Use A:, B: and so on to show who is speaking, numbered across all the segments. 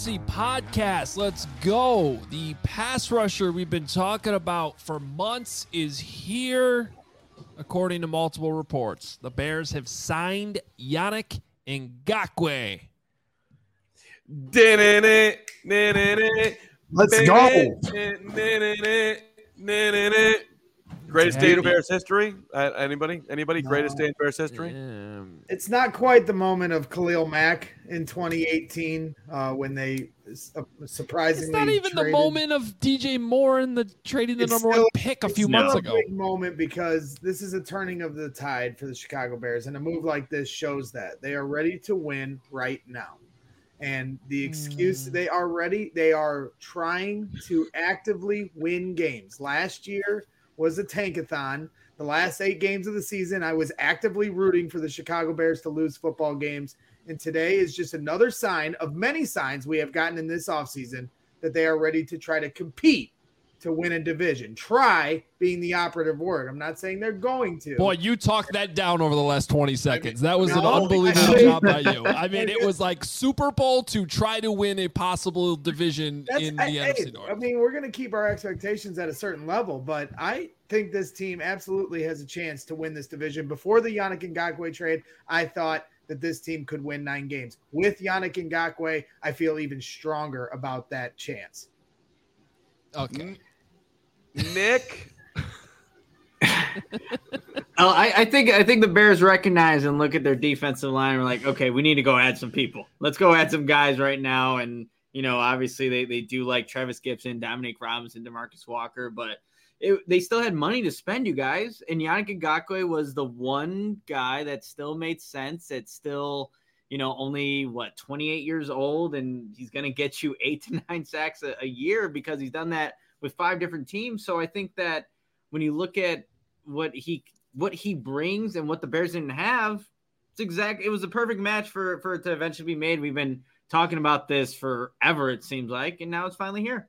A: Fantasy Podcast. Let's go. The pass rusher we've been talking about for months is here, according to multiple reports. The Bears have signed Yannick Ngakoue.
B: Let's go.
C: Greatest day in Bears history? Anybody?
B: No.
C: Greatest day in Bears history?
B: It's not quite the moment of Khalil Mack in 2018 when they surprisingly
A: It's not even
B: traded.
A: the moment of DJ Moore and the trading the
B: It's
A: number
B: still-
A: one pick a few
B: It's
A: months
B: still
A: ago.
B: a big moment because this is a turning of the tide for the Chicago Bears, and a move like this shows that they are ready to win right now. And the excuse they are ready, they are trying to actively win games. Last year was a tankathon. The last 8 games of the season, I was actively rooting for the Chicago Bears to lose football games. And today is just another sign of many signs we have gotten in this offseason that they are ready to try to compete to win a division. Try being the operative word. I'm not saying they're going to.
A: Boy, you talked that down over the last 20 seconds. That was an
B: No,
A: unbelievable
B: I-
A: job by you. I mean, it was like Super Bowl to try to win a possible division in the NFC North.
B: I mean, we're going to keep our expectations at a certain level, but I think this team absolutely has a chance to win this division. Before the Yannick Ngakoue trade, I thought that this team could win 9 games. With Yannick Ngakoue, I feel even stronger about that chance.
A: Okay.
C: Nick?
D: I think the Bears recognize and look at their defensive line. We're like, okay, we need to go add some people. Let's go add some guys right now. And, you know, obviously they do like Travis Gibson, Dominique Robinson, DeMarcus Walker, but they still had money to spend, you guys. And Yannick Ngakoue was the one guy that still made sense. It's still, you know, only 28 years old, and he's going to get you 8 to 9 sacks a year because he's done that with 5 different teams. So I think that when you look at what he brings and what the Bears didn't have, it was a perfect match for it to eventually be made. We've been talking about this forever, it seems like, and now it's finally here.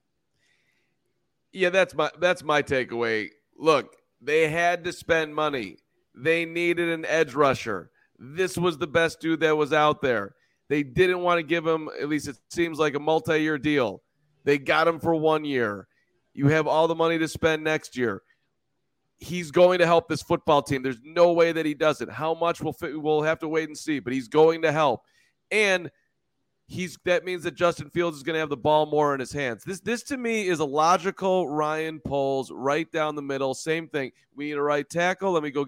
C: Yeah, that's my takeaway. Look, they had to spend money. They needed an edge rusher. This was the best dude that was out there. They didn't want to give him, at least it seems like, a multi-year deal. They got him for 1 year. You have all the money to spend next year. He's going to help this football team. There's no way that he doesn't. How much we'll have to wait and see, but he's going to help. And that means that Justin Fields is going to have the ball more in his hands. This to me is a logical Ryan Poles right down the middle. Same thing. We need a right tackle. Let me go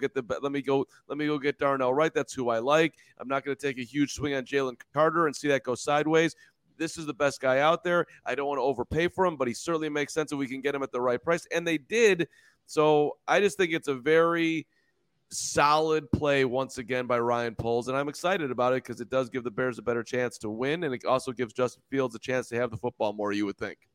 C: get Darnell Wright. That's who I like. I'm not going to take a huge swing on Jalen Carter and see that go sideways. This is the best guy out there. I don't want to overpay for him, but he certainly makes sense if we can get him at the right price. And they did. So I just think it's a very solid play once again by Ryan Poles, and I'm excited about it because it does give the Bears a better chance to win, and it also gives Justin Fields a chance to have the football more, you would think.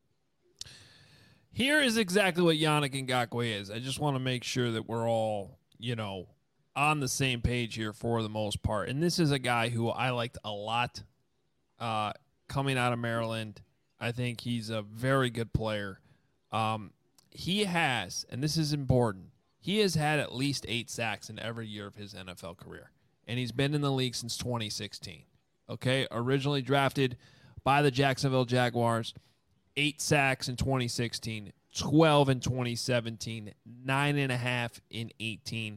A: Here is exactly what Yannick Ngakoue is. I just want to make sure that we're all, on the same page here for the most part. And this is a guy who I liked a lot coming out of Maryland. I think he's a very good player. He has, and this is important, he has had at least 8 sacks in every year of his NFL career. And he's been in the league since 2016. Okay? Originally drafted by the Jacksonville Jaguars. 8 sacks in 2016, 12 in 2017, 9.5 in 18,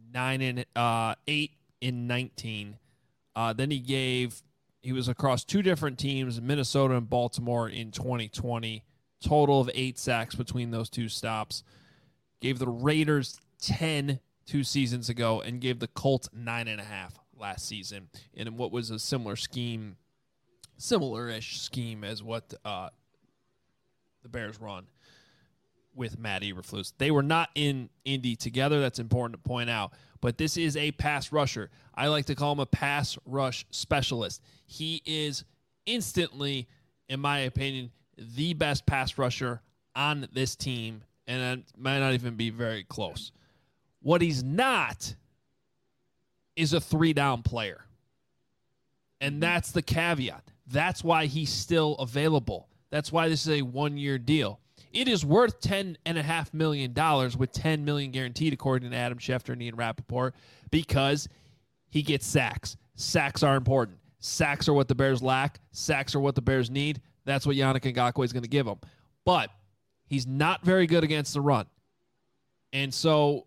A: 8 in 19. Then he was across 2 different teams, Minnesota and Baltimore in 2020. Total of 8 sacks between those 2 stops. Gave the Raiders 10 2 seasons ago and gave the Colts 9.5 last season in what was a similar-ish scheme as what the Bears run with Matt Eberflus. They were not in Indy together. That's important to point out. But this is a pass rusher. I like to call him a pass rush specialist. He is instantly, in my opinion, the best pass rusher on this team, and it might not even be very close. What he's not is a 3-down player. And that's the caveat. That's why he's still available. That's why this is a 1-year deal. It is worth $10.5 million with $10 million guaranteed, according to Adam Schefter and Ian Rappaport, because he gets sacks. Sacks are important. Sacks are what the Bears lack. Sacks are what the Bears need. that's what Yannick Ngakoue is going to give him. But he's not very good against the run. And so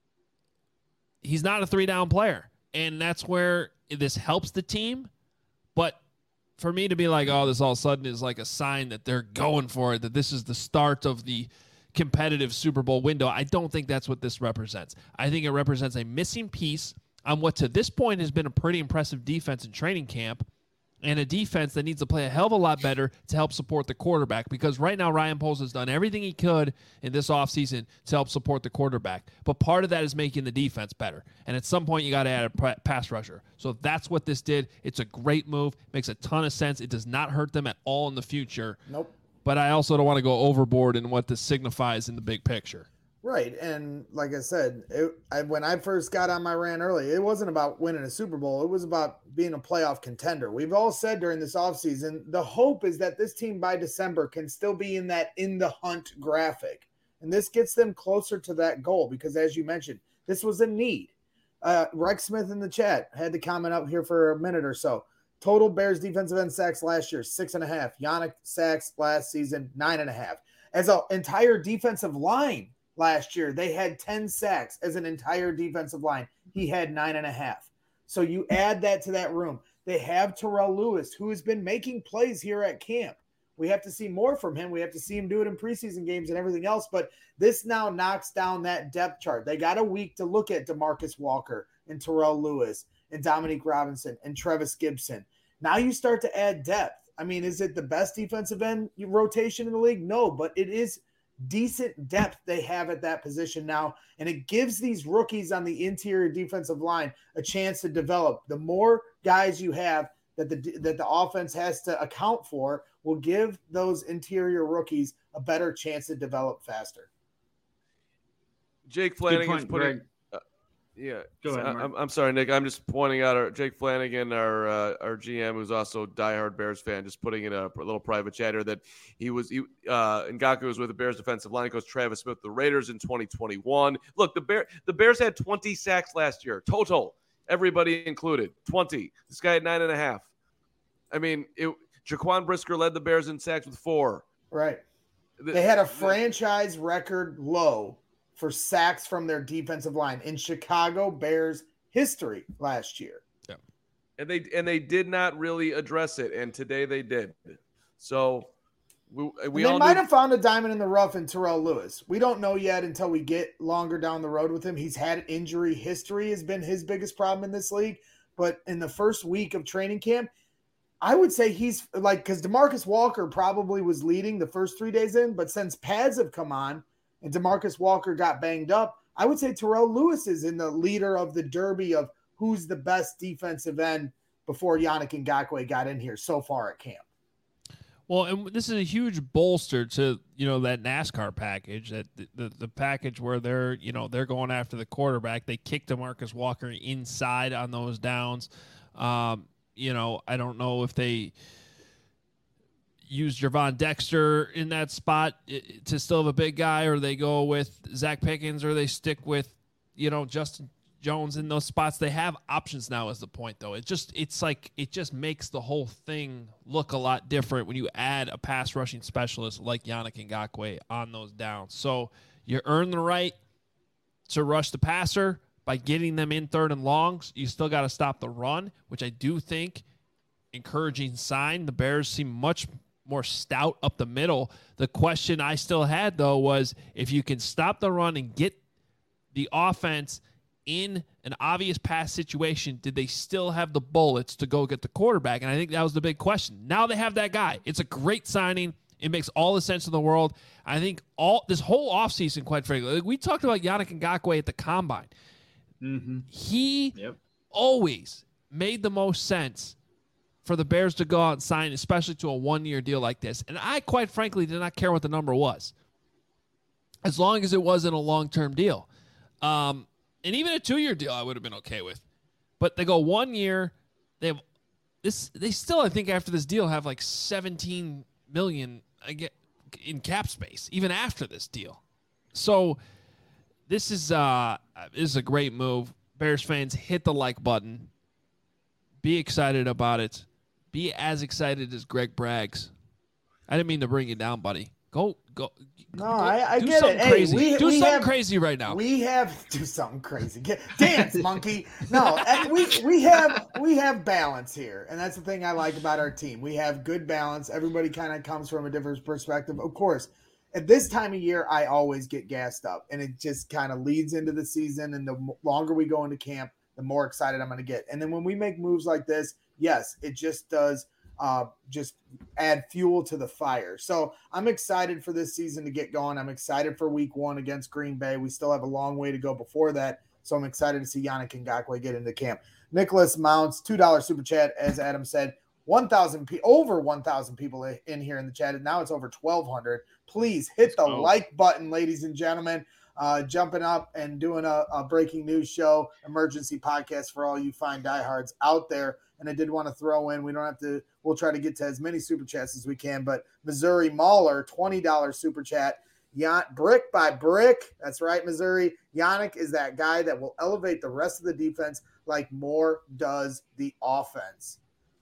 A: he's not a 3-down player. And that's where this helps the team. But for me to be like, oh, this all of a sudden is like a sign that they're going for it, that this is the start of the competitive Super Bowl window, I don't think that's what this represents. I think it represents a missing piece on what to this point has been a pretty impressive defense in training camp, and a defense that needs to play a hell of a lot better to help support the quarterback, because right now Ryan Poles has done everything he could in this offseason to help support the quarterback. But part of that is making the defense better. And at some point, you got to add a pass rusher. So that's what this did. It's a great move. Makes a ton of sense. It does not hurt them at all in the future.
B: Nope.
A: But I also don't want to go overboard in what this signifies in the big picture.
B: Right. And like I said, when I first got on my rant early, it wasn't about winning a Super Bowl. It was about being a playoff contender. We've all said during this offseason, the hope is that this team by December can still be in that in the hunt graphic. And this gets them closer to that goal because, as you mentioned, this was a need. Rex Smith in the chat had to comment up here for a minute or so. Total Bears defensive end sacks last year, 6.5. Yannick sacks last season, 9.5. As an entire defensive line, last year, they had 10 sacks as an entire defensive line. He had 9.5. So you add that to that room. They have Terrell Lewis, who has been making plays here at camp. We have to see more from him. We have to see him do it in preseason games and everything else. But this now knocks down that depth chart. They got a week to look at DeMarcus Walker and Terrell Lewis and Dominique Robinson and Trevis Gibson. Now you start to add depth. I mean, is it the best defensive end rotation in the league? No, but it is decent depth they have at that position now, and it gives these rookies on the interior defensive line a chance to develop. The more guys you have that the offense has to account for will give those interior rookies a better chance to develop faster.
C: Jake Flanagan's putting Go ahead, I'm sorry, Nick. I'm just pointing out Jake Flanagan, our GM, who's also a diehard Bears fan, just putting in a little private chatter that Ngakoue was with the Bears defensive line coach Travis Smith, the Raiders in 2021. Look, the Bears had 20 sacks last year total, everybody included, 20. This guy had 9.5. I mean, Jaquan Brisker led the Bears in sacks with 4.
B: Right. They had a franchise record low for sacks from their defensive line in Chicago Bears history last year.
A: Yeah.
C: And they did not really address it, and today they did. So we all
B: might have found a diamond in the rough in Terrell Lewis. We don't know yet until we get longer down the road with him. He's had injury history has been his biggest problem in this league, but in the first week of training camp, I would say he's like, because DeMarcus Walker probably was leading the first 3 days in, but since pads have come on, and DeMarcus Walker got banged up, I would say Terrell Lewis is in the leader of the derby of who's the best defensive end before Yannick Ngakoue got in here so far at camp.
A: Well, and this is a huge bolster to, that NASCAR package, that the package where they're going after the quarterback. They kicked DeMarcus Walker inside on those downs. I don't know if they use Gervon Dexter in that spot to still have a big guy, or they go with Zach Pickens, or they stick with, Justin Jones in those spots. They have options now is the point, though. It just makes the whole thing look a lot different when you add a pass rushing specialist like Yannick Ngakoue on those downs. So you earn the right to rush the passer by getting them in third and longs. You still got to stop the run, which I do think encouraging sign. The Bears seem much more stout up the middle. The question I still had, though, was if you can stop the run and get the offense in an obvious pass situation, did they still have the bullets to go get the quarterback? And I think that was the big question. Now they have that guy. It's a great signing. It makes all the sense in the world. I think this whole offseason, quite frankly, we talked about Yannick Ngakoue at the Combine.
D: Mm-hmm.
A: He always made the most sense for the Bears to go out and sign, especially to a one-year deal like this. And I, quite frankly, did not care what the number was, as long as it wasn't a long-term deal. And even a 2-year deal I would have been okay with. But they go 1 year. They have this. They still, I think, after this deal, have like $17 million in cap space, even after this deal. So this is a great move. Bears fans, hit the like button. Be excited about it. Be as excited as Greg Braggs I didn't mean to bring you down, buddy. Go.
B: No, I
A: do
B: get
A: something
B: it. Hey,
A: crazy.
B: we
A: do something
B: have,
A: crazy right now.
B: We have do something crazy. Dance, monkey. No, we have balance here, and that's the thing I like about our team. We have good balance. Everybody kind of comes from a different perspective. Of course, at this time of year, I always get gassed up, and it just kind of leads into the season. And the longer we go into camp, the more excited I'm going to get. And then when we make moves like this, yes, it just does. Just add fuel to the fire. So I'm excited for this season to get going. I'm excited for week 1 against Green Bay. We still have a long way to go before that. So I'm excited to see Yannick Ngakoue get into camp. Nicholas Mounts, $2 super chat. As Adam said, over 1,000 people in here in the chat. And now it's over 1,200. Please hit the like button, ladies and gentlemen. Jumping up and doing a breaking news show, emergency podcast for all you fine diehards out there. And I did want to throw in, we'll try to get to as many super chats as we can, but Missouri Mauler, $20 super chat. Brick by brick. That's right, Missouri. Yannick is that guy that will elevate the rest of the defense like Moore does the offense.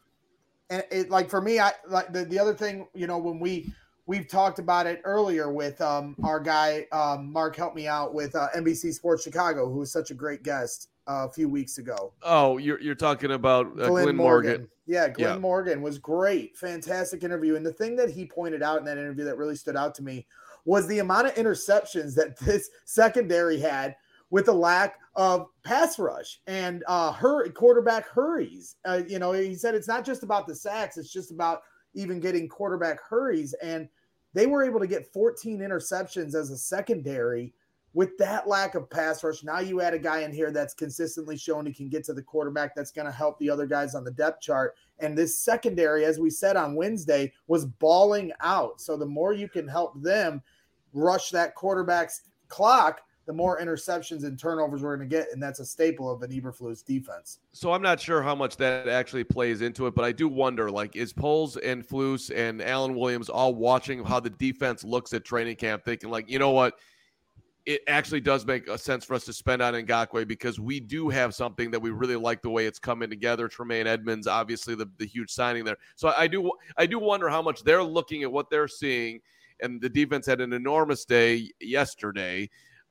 B: And it, like, for me, I like the other thing, when we've talked about it earlier with our guy, Mark, help me out with NBC Sports Chicago, who was such a great guest a few weeks ago.
C: Oh, you're talking about Glenn Morgan.
B: Yeah, Glenn Morgan was great. Fantastic interview. And the thing that he pointed out in that interview that really stood out to me was the amount of interceptions that this secondary had with a lack of pass rush and quarterback hurries. He said it's not just about the sacks, it's just about even getting quarterback hurries. And they were able to get 14 interceptions as a secondary with that lack of pass rush. Now you add a guy in here that's consistently shown he can get to the quarterback. That's going to help the other guys on the depth chart. And this secondary, as we said on Wednesday, was balling out. So the more you can help them rush that quarterback's clock, the more interceptions and turnovers we're going to get. And that's a staple of an Eberflus defense.
C: So I'm not sure how much that actually plays into it, but I do wonder, is Poles and Flus and Alan Williams all watching how the defense looks at training camp, thinking you know what? It actually does make a sense for us to spend on Ngakoue because we do have something that we really like the way it's coming together. Tremaine Edmonds, obviously the huge signing there. So I do wonder how much they're looking at what they're seeing, and the defense had an enormous day yesterday.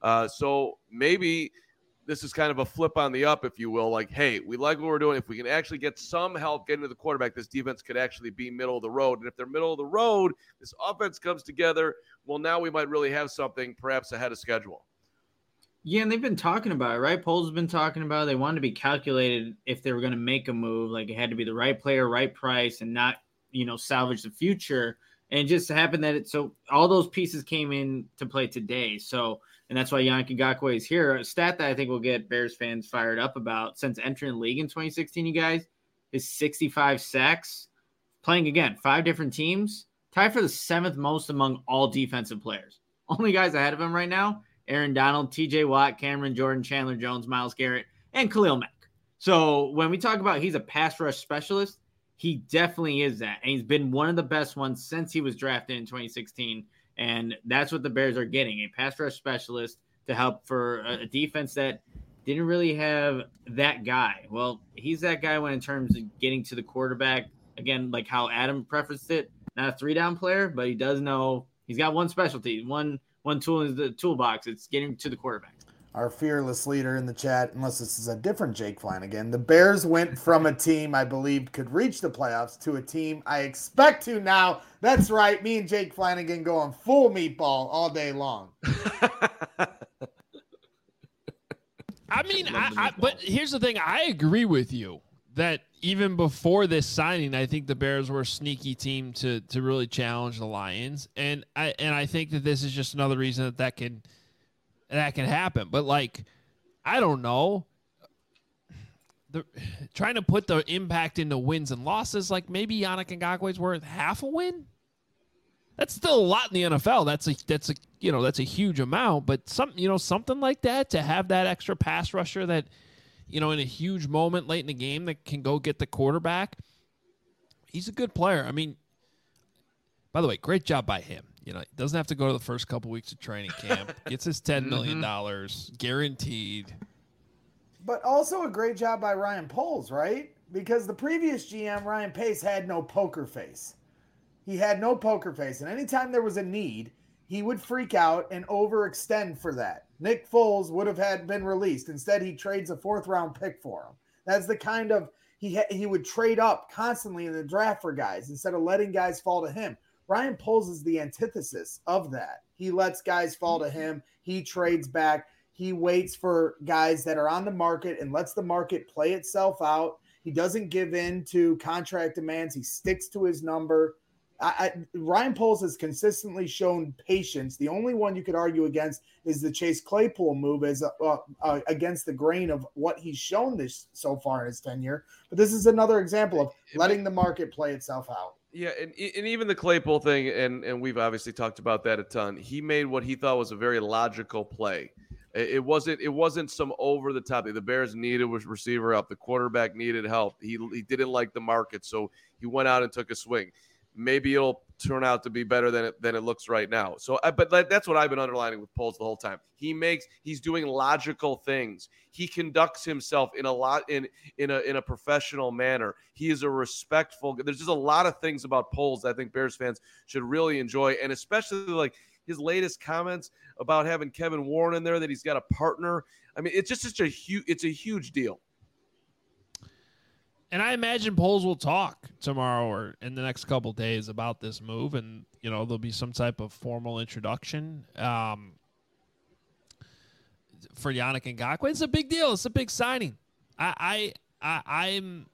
C: So maybe this is kind of a flip on the up, if you will. Hey, we like what we're doing. If we can actually get some help getting to the quarterback, this defense could actually be middle of the road. And if they're middle of the road, this offense comes together. Well, now we might really have something perhaps ahead of schedule.
D: Yeah, and they've been talking about it, right? Poles has been talking about it. They wanted to be calculated if they were going to make a move. It had to be the right player, right price, and not, salvage the future. And it just happened that so all those pieces came in to play today. So, and that's why Yannick Ngakoue is here. A stat that I think will get Bears fans fired up about since entering the league in 2016, you guys, is 65 sacks. Playing, again, 5 different teams. Tied for the 7th most among all defensive players. Only guys ahead of him right now, Aaron Donald, TJ Watt, Cameron Jordan, Chandler Jones, Myles Garrett, and Khalil Mack. So when we talk about he's a pass rush specialist, he definitely is that. And he's been one of the best ones since he was drafted in 2016. And that's what the Bears are getting, a pass rush specialist to help for a defense that didn't really have that guy. Well, he's that guy when in terms of getting to the quarterback, again, like how Adam prefaced it, not a 3-down player, but he does know he's got one specialty, one tool in the toolbox. It's getting to the quarterback.
B: Our fearless leader in the chat, unless this is a different Jake Flanagan, the Bears went from a team I believe could reach the playoffs to a team I expect to now. That's right. Me and Jake Flanagan going full meatball all day long.
A: I mean, but here's the thing. I agree with you that even before this signing, I think the Bears were a sneaky team to really challenge the Lions. And I think that this is just another reason that can happen. But I don't know. Trying to put the impact into wins and losses, maybe Yannick Ngakoue's worth half a win. That's still a lot in the NFL. That's a huge amount, but something like that, to have that extra pass rusher that, in a huge moment late in the game that can go get the quarterback. He's a good player. I mean, by the way, great job by him. He doesn't have to go to the first couple weeks of training camp. Gets his $10 million guaranteed.
B: But also a great job by Ryan Poles, right? Because the previous GM, Ryan Pace, had no poker face. He had no poker face. And anytime there was a need, he would freak out and overextend for that. Nick Foles would have been released. Instead, he trades a 4th-round pick for him. That's the kind of he would trade up constantly in the draft for guys instead of letting guys fall to him. Ryan Poles is the antithesis of that. He lets guys fall to him. He trades back. He waits for guys that are on the market and lets the market play itself out. He doesn't give in to contract demands. He sticks to his number. Ryan Poles has consistently shown patience. The only one you could argue against is the Chase Claypool move as against the grain of what he's shown this so far in his tenure. But this is another example of letting the market play itself out.
C: Yeah, and even the Claypool thing, and we've obviously talked about that a ton. He made what he thought was a very logical play. It wasn't some over the top. The Bears needed a receiver help. The quarterback needed help. He didn't like the market, so he went out and took a swing. Maybe it'll turn out to be better than it looks right now. So, but that's what I've been underlining with Poles the whole time. He's doing logical things. He conducts himself in a professional manner. He is a respectful. There's just a lot of things about Poles that I think Bears fans should really enjoy, and especially like his latest comments about having Kevin Warren in there, that he's got a partner. I mean, it's just a huge deal.
A: And I imagine Poles will talk tomorrow or in the next couple of days about this move, and there'll be some type of formal introduction for Yannick Ngakoue. It's a big deal. It's a big signing. I'm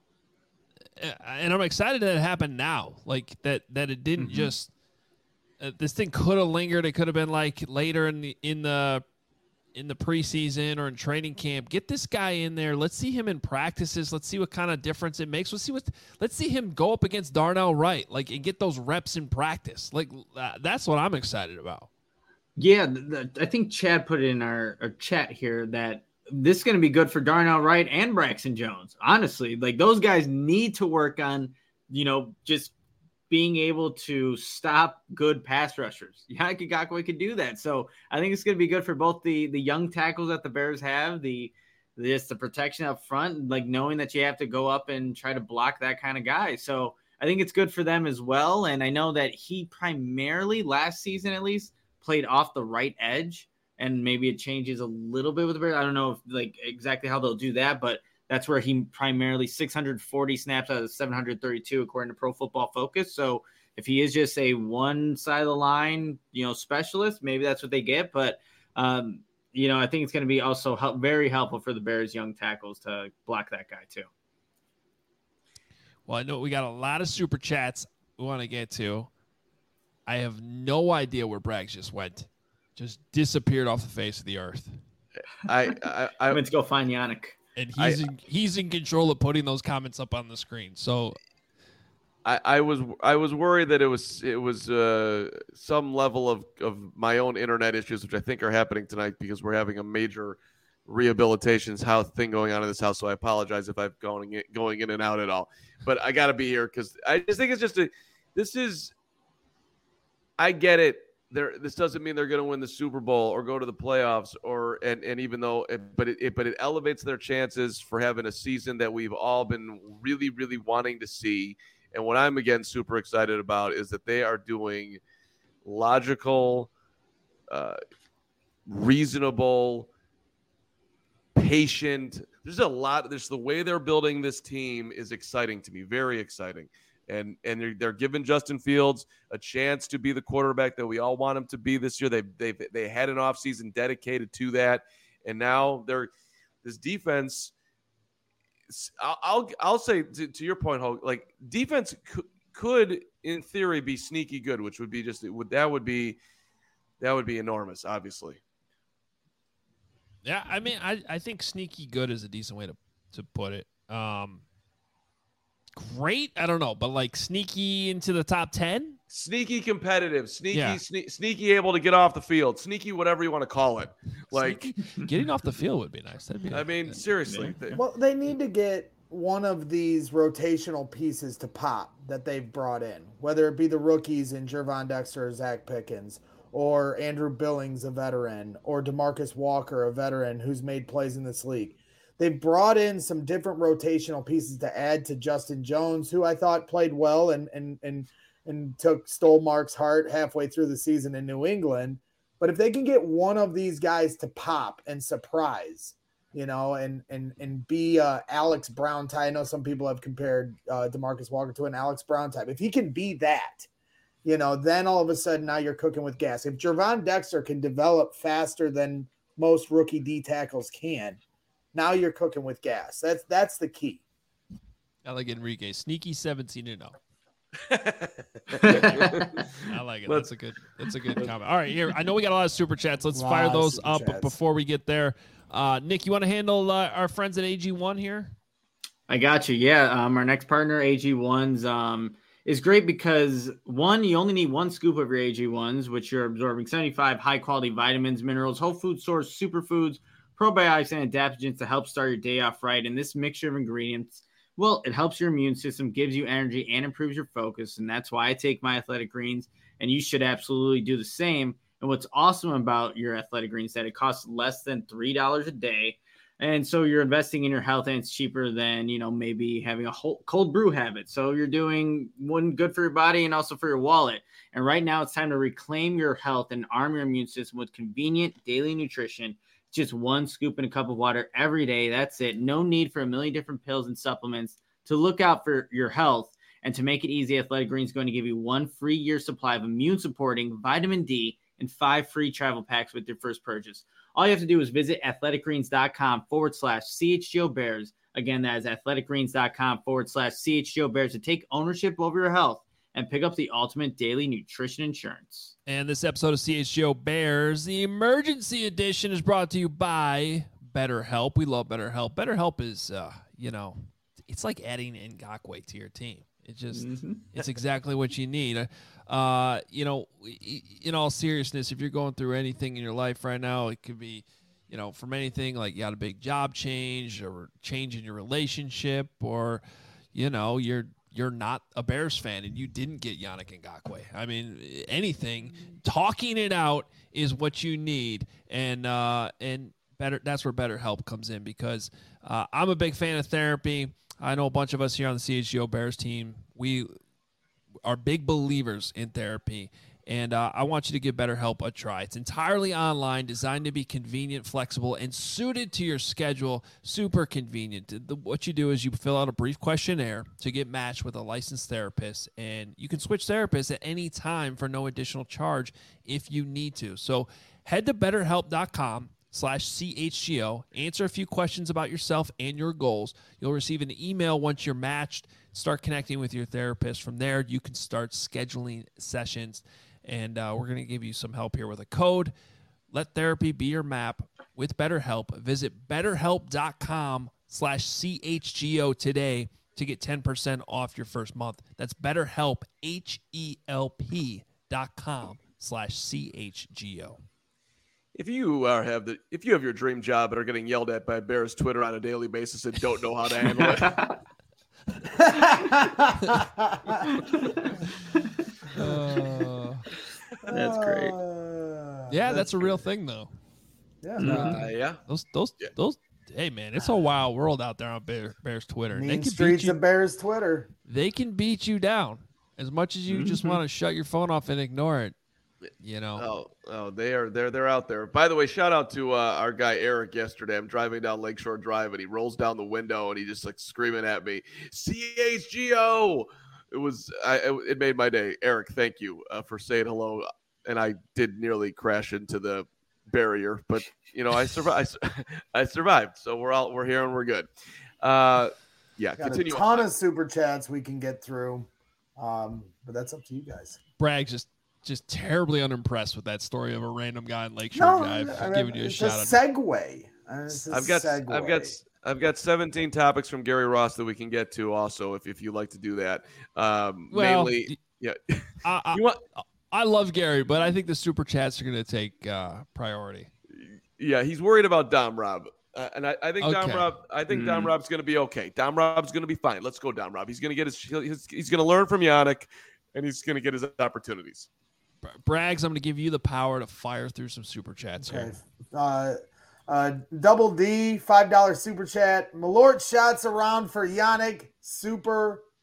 A: excited that it happened now. Like that it didn't just this thing could have lingered. It could have been like later in the preseason or in training camp. Get this guy in there. Let's see him in practices. Let's see what kind of difference it makes. Let's see him go up against Darnell Wright, and get those reps in practice. That's what I'm excited about.
D: Yeah, I think Chad put it in our chat here that this is going to be good for Darnell Wright and Braxton Jones. Honestly, those guys need to work on, just being able to stop good pass rushers. Yannick Ngakoue could do that. So I think it's going to be good for both the young tackles that the Bears have, the protection up front, knowing that you have to go up and try to block that kind of guy. So I think it's good for them as well. And I know that he primarily last season, at least, played off the right edge, and maybe it changes a little bit with the Bears. I don't know if exactly how they'll do that, but that's where he primarily 640 snaps out of 732, according to Pro Football Focus. So if he is just a one side of the line, specialist, maybe that's what they get. But, I think it's going to be also very helpful for the Bears young tackles to block that guy too.
A: Well, I know we got a lot of super chats we want to get to. I have no idea where Braggs just went. Just disappeared off the face of the earth.
C: I
D: went to go find Yannick.
A: And he's in control of putting those comments up on the screen. So
C: I was worried that it was some level of my own internet issues, which I think are happening tonight because we're having a major rehabilitation thing going on in this house. So I apologize if I'm going in and out at all. But I got to be here because I just think it's I get it. This doesn't mean they're going to win the Super Bowl or go to the playoffs, and even though, but it elevates their chances for having a season that we've all been really, really wanting to see. And what I'm again super excited about is that they are doing logical, reasonable, patient. There's the way they're building this team is exciting to me, very exciting. And they're giving Justin Fields a chance to be the quarterback that we all want him to be this year. They had an offseason dedicated to that, and now this defense. I'll say to your point, Hulk, defense could in theory be sneaky good, which would be that would be enormous, obviously.
A: Yeah, I mean, I think sneaky good is a decent way to put it. Great, I don't know, but sneaky into the top 10,
C: sneaky competitive, sneaky able to get off the field, sneaky whatever you want to call it.
A: Getting off the field would be nice. That'd be nice.
C: Seriously.
B: Well, they need to get one of these rotational pieces to pop that they've brought in, whether it be the rookies in Gervon Dexter or Zach Pickens, or Andrew Billings, a veteran, or DeMarcus Walker, a veteran who's made plays in this league. They've brought in some different rotational pieces to add to Justin Jones, who I thought played well and and stole Mark's heart halfway through the season in New England. But if they can get one of these guys to pop and surprise, and be Alex Brown type. I know some people have compared DeMarcus Walker to an Alex Brown type. If he can be that, then all of a sudden now you're cooking with gas. If Gervon Dexter can develop faster than most rookie D tackles can, now you're cooking with gas. That's the key.
A: I like Enrique. Sneaky 17-0. I like it. That's a good comment. All right, here. I know we got a lot of super chats. Let's fire those up before we get there. Nick, you want to handle our friends at AG1 here?
D: I got you. Yeah. Our next partner, AG1's, is great because one, you only need one scoop of your AG1s, which you're absorbing 75 high quality vitamins, minerals, whole food source, superfoods, probiotics, and adaptogens to help start your day off right. And this mixture of ingredients, well, it helps your immune system, gives you energy, and improves your focus. And that's why I take my Athletic Greens, and you should absolutely do the same. And what's awesome about your Athletic Greens is that it costs less than $3 a day. And so you're investing in your health, and it's cheaper than, maybe having a whole cold brew habit. So you're doing one good for your body and also for your wallet. And right now it's time to reclaim your health and arm your immune system with convenient daily nutrition. Just one scoop in a cup of water every day. That's it. No need for a million different pills and supplements to look out for your health. And to make it easy, Athletic Greens is going to give you 1 free year supply of immune supporting vitamin D and 5 free travel packs with your first purchase. All you have to do is visit athleticgreens.com/CHGO Bears. Again, that is athleticgreens.com/CHGO Bears to take ownership over your health and pick up the ultimate daily nutrition insurance.
A: And this episode of CHGO Bears, the emergency edition, is brought to you by BetterHelp. We love BetterHelp. BetterHelp is, it's like adding Ngakoue to your team. It just, it's exactly what you need. In all seriousness, if you're going through anything in your life right now, it could be, from anything like you got a big job change or change in your relationship, or, you're not a Bears fan and you didn't get Yannick Ngakoue. I mean, anything, talking it out is what you need. And that's where BetterHelp comes in, because I'm a big fan of therapy. I know a bunch of us here on the CHGO Bears team, we are big believers in therapy, and I want you to give BetterHelp a try. It's entirely online, designed to be convenient, flexible, and suited to your schedule. Super convenient. What you do is you fill out a brief questionnaire to get matched with a licensed therapist, and you can switch therapists at any time for no additional charge if you need to. So head to BetterHelp.com/CHGO, answer a few questions about yourself and your goals. You'll receive an email once you're matched. Start connecting with your therapist. From there, you can start scheduling sessions, and we're going to give you some help here with a code. Let therapy be your map with BetterHelp. Visit BetterHelp.com/CHGO today to get 10% off your first month. That's BetterHelp, HELP.com/CHGO.
C: If you have your dream job but are getting yelled at by Bears Twitter on a daily basis and don't know how to handle it,
D: that's great.
A: Yeah, that's a real thing, though.
C: yeah.
A: Those. Hey, man, it's a wild world out there on Bears Twitter.
B: Mean streets of Bears Twitter.
A: They can beat you down as much as you just want to shut your phone off and ignore it.
C: They're out there. By the way, shout out to our guy Eric yesterday. I'm driving down Lakeshore Drive and he rolls down the window and he just like screaming at me, CHGO. It made my day. Eric, thank you for saying hello. And I did nearly crash into the barrier, but I survived. I survived. So we're here and we're good. Continue.
B: A ton of super chats we can get through. But that's up to you guys.
A: Bragg's just terribly unimpressed with that story of a random guy in Lakeshore Drive giving you a shout out.
B: Segue.
C: I've got 17 topics from Gary Ross that we can get to also if you like to do that. Mainly, yeah.
A: I love Gary, but I think the super chats are going to take priority.
C: Yeah, he's worried about Dom Rob. And I think Dom Rob's going to be okay. Dom Rob's going to be fine. Let's go, Dom Rob. He's going to get he's going to learn from Yannick, and he's going to get his opportunities.
A: Braggs, I'm going to give you the power to fire through some super chats here.
B: Double D, $5 super chat. Malort shots around for Yannick. Super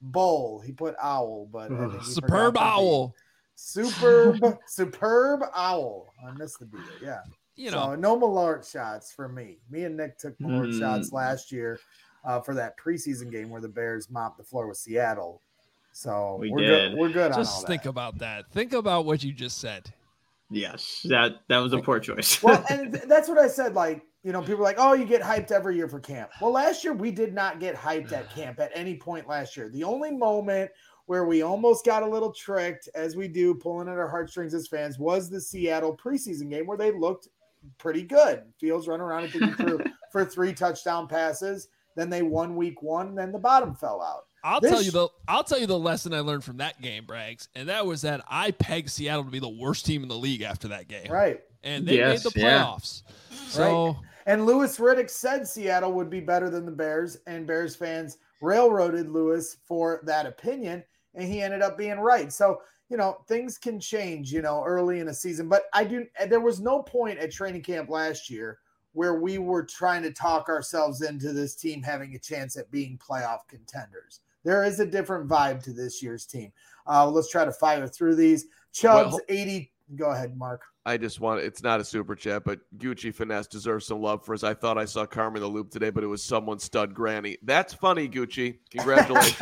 B: Bull. He put owl, but I think he
A: Superb
B: forgot the B.
A: owl.
B: Superb owl. I missed the B. Yeah.
A: You know,
B: So no Malort shots for me. Me and Nick took Malort shots last year for that preseason game where the Bears mopped the floor with Seattle. So we're good. We're good on all
A: just
B: that.
A: think about that. Think about what you just said.
D: Yes, that was a poor choice.
B: Well, and that's what I said. Like, you know, people are like, oh, you get hyped every year for camp. Well, last year we did not get hyped at camp at any point last year. The only moment where we almost got a little tricked, as we do, pulling at our heartstrings as fans, was the Seattle preseason game where they looked pretty good. Fields running around and thinking for 3 touchdown passes. Then they won week 1, and then the bottom fell out.
A: I'll tell you the lesson I learned from that game, Braggs, and that was that I pegged Seattle to be the worst team in the league after that game.
B: Right.
A: And they made the playoffs.
B: Yeah.
A: So
B: right. And Louis Riddick said Seattle would be better than the Bears, and Bears fans railroaded Louis for that opinion, and he ended up being right. So, you know, things can change, you know, early in a season. But there was no point at training camp last year where we were trying to talk ourselves into this team having a chance at being playoff contenders. There is a different vibe to this year's team. Let's try to fire through these. Chubbs, 80. Go ahead, Mark.
C: I just want, it's not a super chat, but Gucci Finesse deserves some love for his. I thought I saw Carmen the Loop today, but it was someone's stud granny. That's funny, Gucci. Congratulations.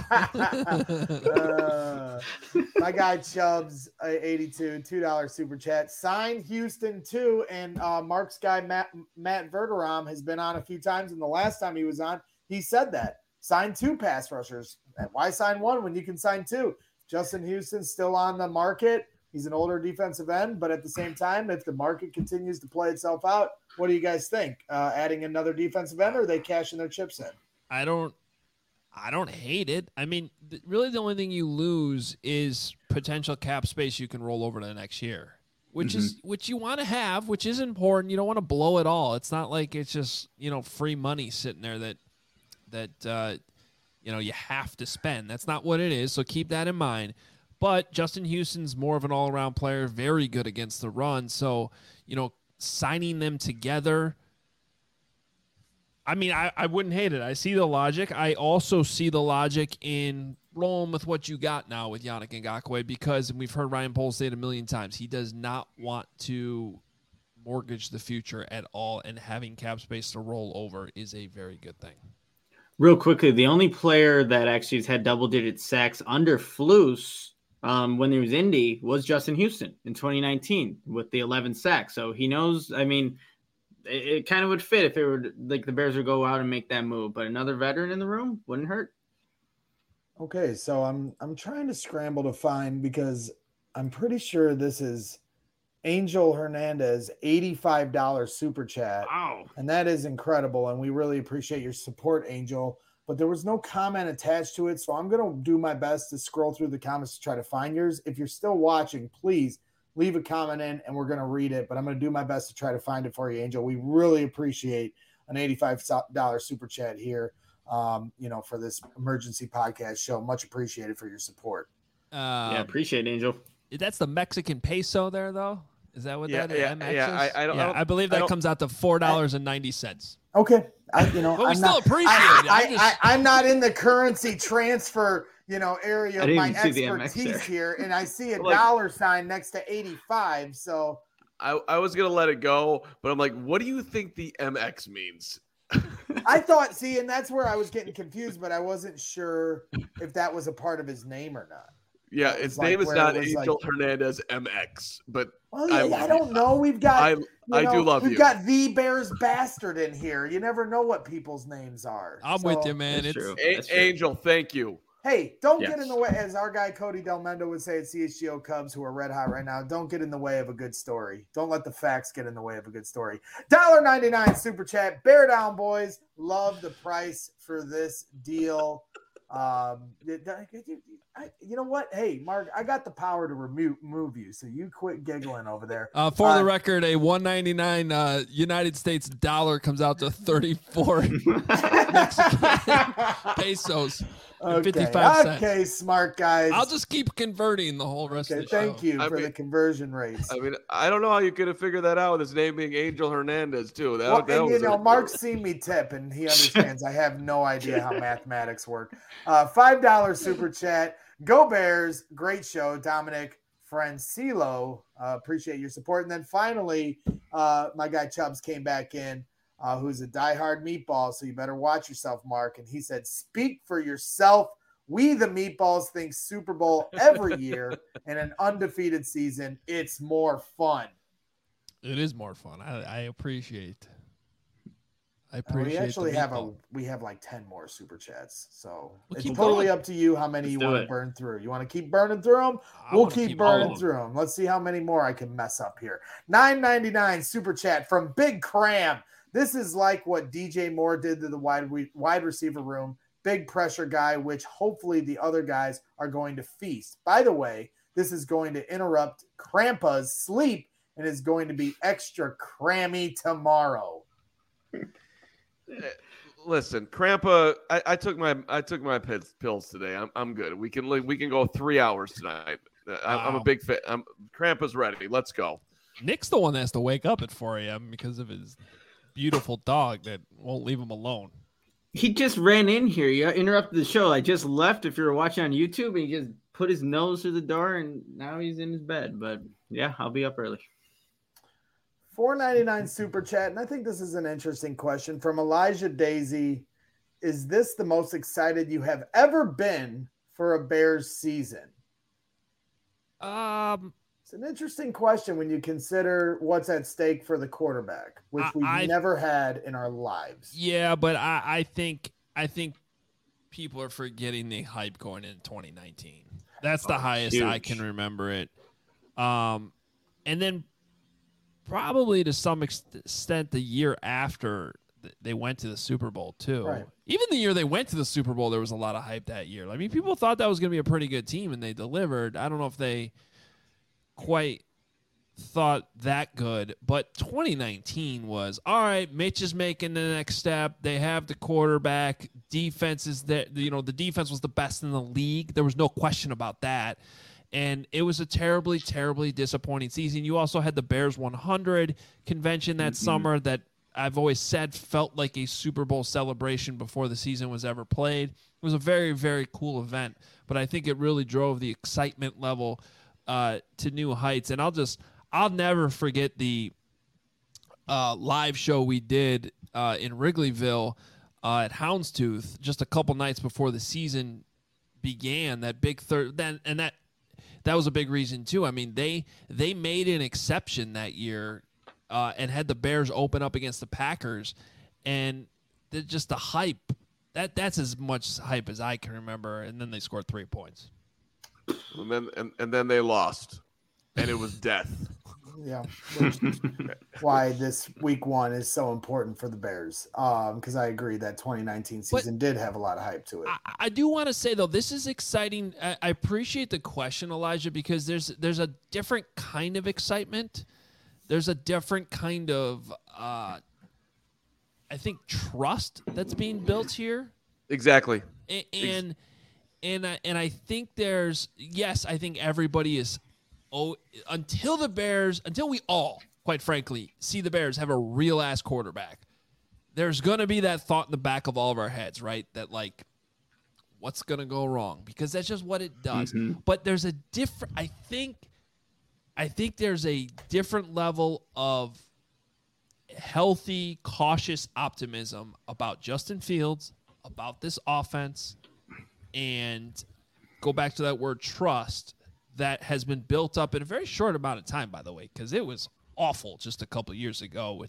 B: My guy Chubbs, 82, $2 super chat. Signed Houston too, and Mark's guy Matt Verderam has been on a few times, and the last time he was on, he said that. Sign 2 pass rushers. Why sign 1 when you can sign 2? Justin Houston's still on the market. He's an older defensive end, but at the same time, if the market continues to play itself out, what do you guys think? Adding another defensive end, or are they cashing their chips in?
A: I don't hate it. I mean, really the only thing you lose is potential cap space you can roll over to the next year, which you want to have, which is important. You don't want to blow it all. It's not like it's just, you know, free money sitting there that you know, you have to spend. That's not what it is, so keep that in mind. But Justin Houston's more of an all-around player, very good against the run. So, you know, signing them together, I mean, I wouldn't hate it. I see the logic. I also see the logic in rolling with what you got now with Yannick Ngakoue because, and we've heard Ryan Poles say it a million times, he does not want to mortgage the future at all, and having cap space to roll over is a very good thing.
D: Real quickly, the only player that actually has had double-digit sacks under Flus when he was Indy was Justin Houston in 2019 with the 11 sacks. So he knows, I mean, it kind of would fit if it were like the Bears would go out and make that move, but another veteran in the room wouldn't hurt.
B: Okay, so I'm trying to scramble to find, because I'm pretty sure this is Angel Hernandez, $85 super chat.
D: Wow.
B: And that is incredible. And we really appreciate your support, Angel. But there was no comment attached to it. So I'm going to do my best to scroll through the comments to try to find yours. If you're still watching, please leave a comment in and we're going to read it. But I'm going to do my best to try to find it for you, Angel. We really appreciate an $85 super chat here, you know, for this emergency podcast show. Much appreciated for your support.
D: Yeah, appreciate it, Angel.
A: That's the Mexican peso there, though? Is that what that is? I believe
C: I
A: that comes out to $4.90.
B: Okay.
A: But we still appreciate it.
B: I'm not in the currency transfer, you know, area of my expertise here, and I see a dollar sign next to 85. So
C: I was gonna let it go, but I'm like, what do you think the MX means?
B: I thought, see, and that's where I was getting confused, but I wasn't sure if that was a part of his name or not.
C: Yeah, his name is not Angel Hernandez MX, but
B: I don't know. We've got
C: I do love you.
B: We've got the Bears bastard in here. You never know what people's names are.
A: I'm with you, man.
D: It's true.
C: Angel, thank you.
B: Hey, don't get in the way, as our guy Cody Del Mendo would say at CHGO Cubs, who are red hot right now. Don't get in the way of a good story. Don't let the facts get in the way of a good story. $1.99 super chat. Bear down, boys. Love the price for this deal. You know what? Hey, Mark, I got the power to move you, so you quit giggling over there.
A: For the record, a $1.99 United States dollar comes out to 34 Mexican pesos. and
B: Okay.
A: 55 cents.
B: Okay, smart guys.
A: I'll just keep converting the whole rest of the show.
B: Thank you for the conversion rates.
C: I mean, I don't know how you could have figured that out with his name being Angel Hernandez too.
B: Mark's seen me tip, and he understands. I have no idea how mathematics work. $5 super chat. Go Bears! Great show, Dominic Francilo. Appreciate your support. And then finally, my guy Chubbs came back in. Who's a diehard meatball, so you better watch yourself, Mark. And he said, speak for yourself. We, the meatballs, think Super Bowl every year and an undefeated season. It's more fun.
A: It is more fun. I appreciate.
B: We actually have like 10 more super chats. So it's totally up to you how many you want to burn through. You want to keep burning through them? We'll keep burning through them. Let's see how many more I can mess up here. $9.99 super chat from Big Cram. This is like what DJ Moore did to the wide receiver room. Big pressure guy, which hopefully the other guys are going to feast. By the way, this is going to interrupt Krampa's sleep and is going to be extra crammy tomorrow.
C: Listen, Krampa, I took my pills today. I'm good. We can go 3 hours tonight. I'm a big fan. Krampa's ready. Let's go.
A: Nick's the one that has to wake up at 4 a.m. because of his beautiful dog that won't leave him alone.
D: He just ran in here. You interrupted the show. I just left. If you were watching on YouTube, and he just put his nose through the door, and now he's in his bed. But yeah, I'll be up early.
B: $4.99 super chat, and I think this is an interesting question from Elijah Daisy. Is this the most excited you have ever been for a Bears season? It's an interesting question when you consider what's at stake for the quarterback, which we've never had in our lives.
A: Yeah, but I think people are forgetting the hype going into 2019. That's the highest huge. I can remember it. And then probably to some extent the year after they went to the Super Bowl too.
B: Right.
A: Even the year they went to the Super Bowl, there was a lot of hype that year. I mean, people thought that was going to be a pretty good team, and they delivered. I don't know if they quite thought that good, but 2019 was all right. Mitch is making the next step. They have the quarterback. Defense is that, the defense was the best in the league. There was no question about that. And it was a terribly, terribly disappointing season. You also had the Bears 100 convention that summer that I've always said felt like a Super Bowl celebration before the season was ever played. It was a very, very cool event, but I think it really drove the excitement level to new heights. And I'll never forget the live show we did in Wrigleyville at Houndstooth just a couple nights before the season began. That big that was a big reason too. I mean, they made an exception that year and had the Bears open up against the Packers, and just the hype. That's as much hype as I can remember. And then they scored 3 points.
C: And then they lost, and it was death.
B: Yeah, why this week one is so important for the Bears. Because I agree that 2019 season did have a lot of hype to it.
A: I do want to say though, this is exciting. I appreciate the question, Elijah, because there's a different kind of excitement. There's a different kind of I think trust that's being built here.
C: Exactly.
A: And I think I think everybody is. Until we all, quite frankly, see the Bears have a real ass quarterback, there's going to be that thought in the back of all of our heads, right? That like, what's going to go wrong? Because that's just what it does. Mm-hmm. But there's a different, I think there's a different level of healthy, cautious optimism about Justin Fields, about this offense, and go back to that word trust that has been built up in a very short amount of time, by the way, because it was awful just a couple years ago.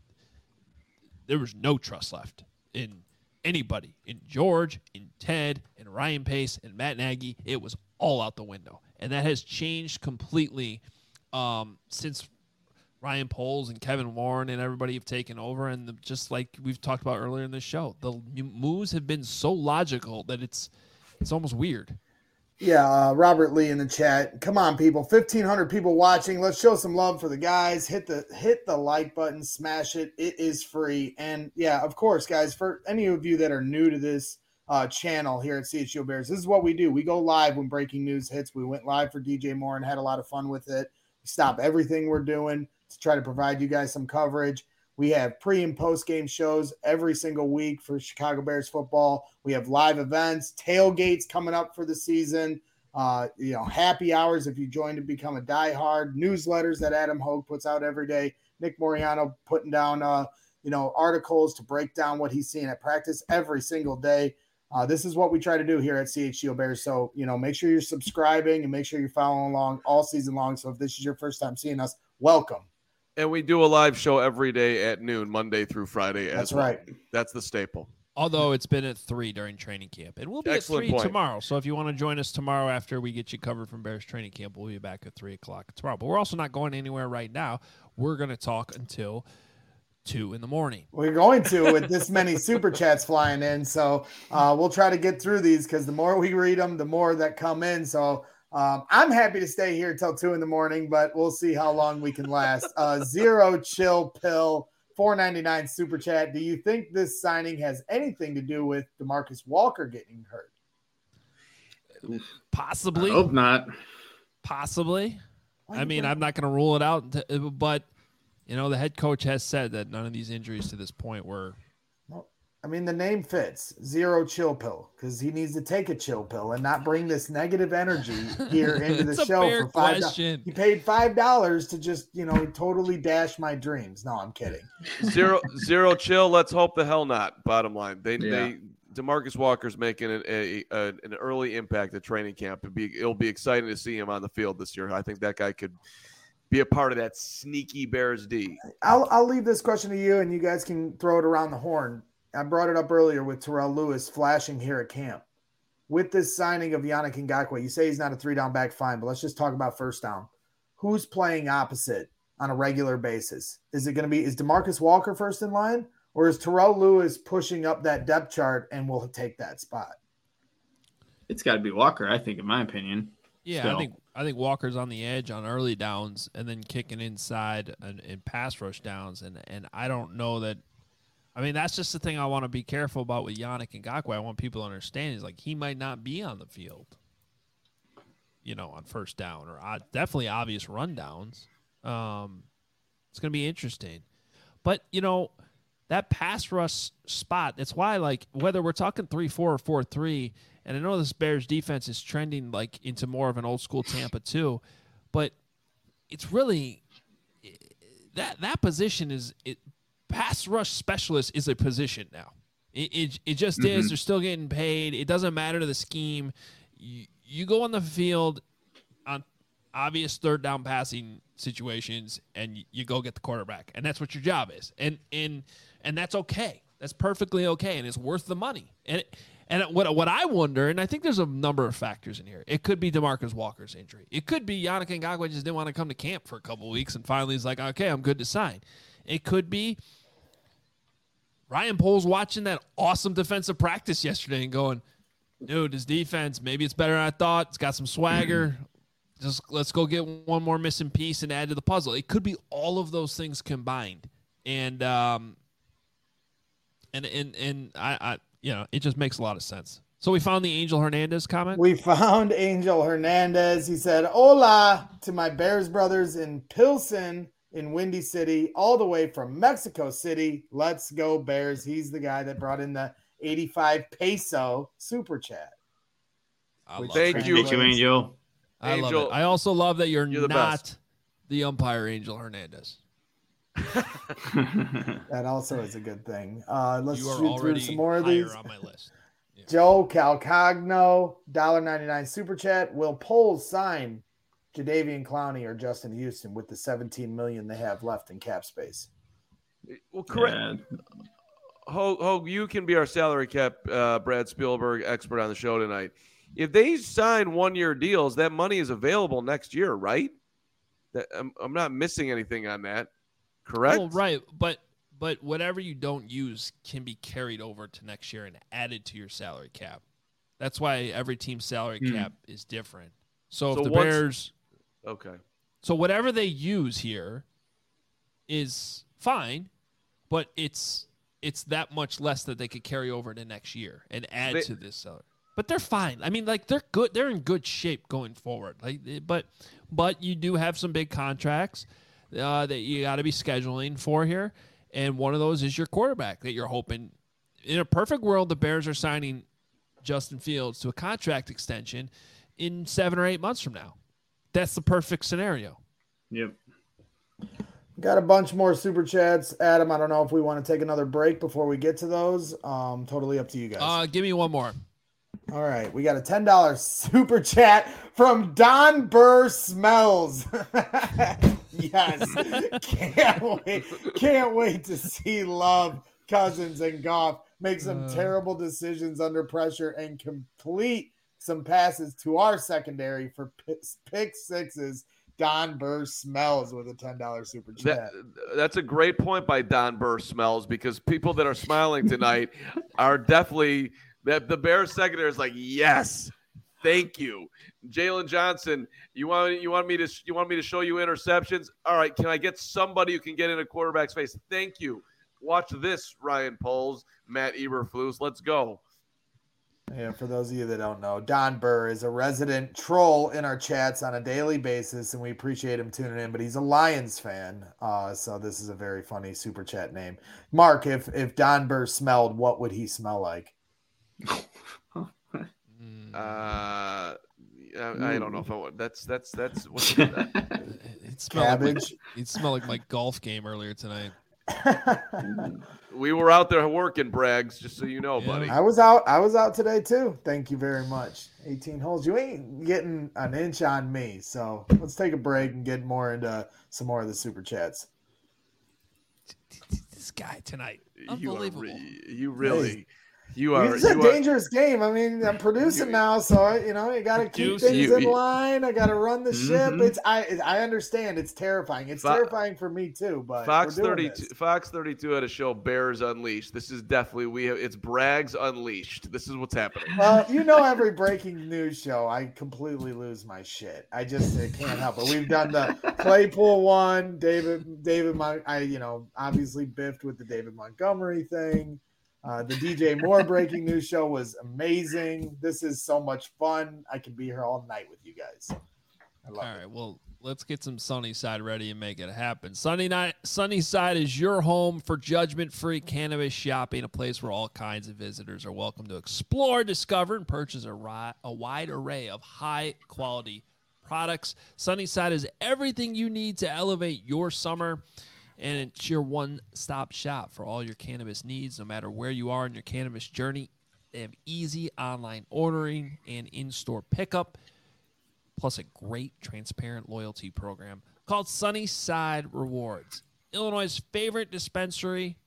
A: There was no trust left in anybody, in George, in Ted, in Ryan Pace, and Matt Nagy. It was all out the window, and that has changed completely since Ryan Poles and Kevin Warren and everybody have taken over. And just like we've talked about earlier in the show, the moves have been so logical that it's almost weird.
B: Yeah, Robert Lee in the chat. Come on, people. 1,500 people watching. Let's show some love for the guys. Hit the like button. Smash it. It is free. And, yeah, of course, guys, for any of you that are new to this channel here at CHGO Bears. This is what we do. We go live when breaking news hits. We went live for DJ Moore and had a lot of fun with it. We stop everything we're doing to try to provide you guys some coverage. We have pre and post game shows every single week for Chicago Bears football. We have live events, tailgates coming up for the season. Happy hours if you join to become a diehard. Newsletters that Adam Hogue puts out every day. Nick Moriano putting down articles to break down what he's seeing at practice every single day. This is what we try to do here at CHGO Bears. So, make sure you're subscribing and make sure you're following along all season long. So if this is your first time seeing us, welcome.
C: And we do a live show every day at noon, Monday through Friday.
B: That's right.
C: That's the staple.
A: Although it's been at 3 during training camp. And we'll be
C: Excellent
A: at 3
C: point.
A: tomorrow. So if you want to join us tomorrow after we get you covered from Bears training camp, we'll be back at 3 o'clock tomorrow. But we're also not going anywhere right now. We're going to talk until 2 in the morning.
B: We're going to with this many super chats flying in. So we'll try to get through these because the more we read them, the more that come in. So I'm happy to stay here till 2 in the morning, but we'll see how long we can last. Zero Chill Pill, $4.99 super chat. Do you think this signing has anything to do with DeMarcus Walker getting hurt?
A: Possibly.
D: I hope not.
A: Possibly. I mean, I'm not going to rule it out, but the head coach has said that none of these injuries to this point were.
B: Well, I mean, the name fits. Zero Chill Pill, because he needs to take a chill pill and not bring this negative energy here into the
A: It's
B: show
A: a fair
B: for $5.
A: question.
B: He paid $5 to just, totally dash my dreams. No, I'm kidding.
C: Zero chill. Let's hope the hell not. Bottom line, DeMarcus Walker's making an early impact at training camp. It'll be exciting to see him on the field this year. I think that guy could be a part of that sneaky Bears D.
B: I'll leave this question to you, and you guys can throw it around the horn. I brought it up earlier with Terrell Lewis flashing here at camp. With this signing of Yannick Ngakoue, you say he's not a 3-down back, fine, but let's just talk about first down. Who's playing opposite on a regular basis? Is DeMarcus Walker first in line, or is Terrell Lewis pushing up that depth chart and will take that spot?
D: It's got to be Walker, I think, in my opinion.
A: Yeah,
D: Still.
A: I think Walker's on the edge on early downs and then kicking inside in pass rush downs. And I don't know that. I mean, that's just the thing I want to be careful about with Yannick Ngakoue. I want people to understand is like he might not be on the field, on first down or definitely obvious rundowns. It's going to be interesting. But, that pass rush spot, that's why, like, whether we're talking 3-4 or 4-3, and I know this Bears defense is trending, like, into more of an old-school Tampa, too, but it's really that position is – pass rush specialist is a position now. It just is. They're still getting paid. It doesn't matter to the scheme. You go on the field on obvious third down passing situations, and you go get the quarterback, and that's what your job is. And that's okay. That's perfectly okay, and it's worth the money. And what I wonder, and I think there's a number of factors in here. It could be DeMarcus Walker's injury. It could be Yannick Ngakoue just didn't want to come to camp for a couple of weeks, and finally he's like, okay, I'm good to sign. It could be Ryan Poles watching that awesome defensive practice yesterday and going, dude, this defense, maybe it's better than I thought. It's got some swagger. Just let's go get one more missing piece and add to the puzzle. It could be all of those things combined. And I it just makes a lot of sense. So we found the Angel Hernandez comment.
B: We found Angel Hernandez. He said, "Hola to my Bears brothers in Pilsen in Windy City, all the way from Mexico City. Let's go Bears." He's the guy that brought in the 85 peso super chat.
C: Thank you,
D: Angel.
A: I love it. I also love that you're
C: the
A: not
C: best.
A: the umpire, Angel Hernandez.
B: That also is a good thing. Let's
A: You are
B: shoot through
A: already
B: some more of
A: higher
B: these.
A: on my list. Yeah.
B: Joe Calcagno, $1.99 super chat. Will Poles sign Jadeveon Clowney or Justin Houston with the $17 million they have left in cap space?
C: Well, correct.
D: Yeah.
C: Hogue, you can be our salary cap Brad Spielberg expert on the show tonight. If they sign one-year deals, that money is available next year, right? I'm not missing anything on that, correct?
A: Oh, right. But whatever you don't use can be carried over to next year and added to your salary cap. That's why every team's salary cap is different. So if the Bears –
C: okay.
A: So whatever they use here is fine, but it's it's that much less that they could carry over to next year and add to this salary. But they're fine. I mean, like, they're good. They're in good shape going forward. Like, but you do have some big contracts that you got to be scheduling for here, and one of those is your quarterback that you're hoping. In a perfect world, the Bears are signing Justin Fields to a contract extension in 7 or 8 months from now. That's the perfect scenario.
D: Yep.
B: Got a bunch more super chats. Adam, I don't know if we want to take another break before we get to those. Totally up to you guys.
A: Give me one more.
B: All right. We got a $10 super chat from Don Burr Smells. Yes. Can't wait to see Love, Cousins, and Goff make some terrible decisions under pressure and complete some passes to our secondary for pick sixes. Don Burr Smells with a $10 super chat.
C: That's a great point by Don Burr Smells, because people that are smiling tonight are definitely that the Bears secondary is like, yes, thank you. Jalen Johnson, you want me to show you interceptions? All right, can I get somebody who can get in a quarterback's face? Thank you. Watch this, Ryan Poles, Matt Eberflus. Let's go.
B: Yeah, for those of you that don't know, Don Burr is a resident troll in our chats on a daily basis, and we appreciate him tuning in, but he's a Lions fan, so this is a very funny super chat name. Mark, if Don Burr smelled, what would he smell like?
C: I don't know if I would. That's what's that?
A: It smelled like my golf game earlier tonight.
C: We were out there working, Braggs, just so you know, buddy.
B: I was out today too. Thank you very much. 18 holes. You ain't getting an inch on me. So let's take a break and get more into some more of the super chats.
A: This guy tonight. Unbelievable.
B: It's a dangerous game. I mean, I'm producing now, so you got to keep things in line. I got to run the ship. I understand. It's terrifying. It's terrifying for me too. But
C: Fox 32 had a show, Bears Unleashed. This is definitely it's Braggs Unleashed. This is what's happening.
B: Well, every breaking news show, I completely lose my shit. I can't help it. We've done the Claypool one, David. Obviously biffed with the David Montgomery thing. The DJ Moore breaking news show was amazing. This is so much fun. I can be here all night with you guys. I love it.
A: All right, well, let's get some Sunnyside ready and make it happen. Sunnyside is your home for judgment-free cannabis shopping, a place where all kinds of visitors are welcome to explore, discover, and purchase a wide array of high-quality products. Sunnyside is everything you need to elevate your summer. And it's your one-stop shop for all your cannabis needs, no matter where you are in your cannabis journey. They have easy online ordering and in-store pickup, plus a great transparent loyalty program called Sunnyside Rewards. Illinois' favorite dispensary,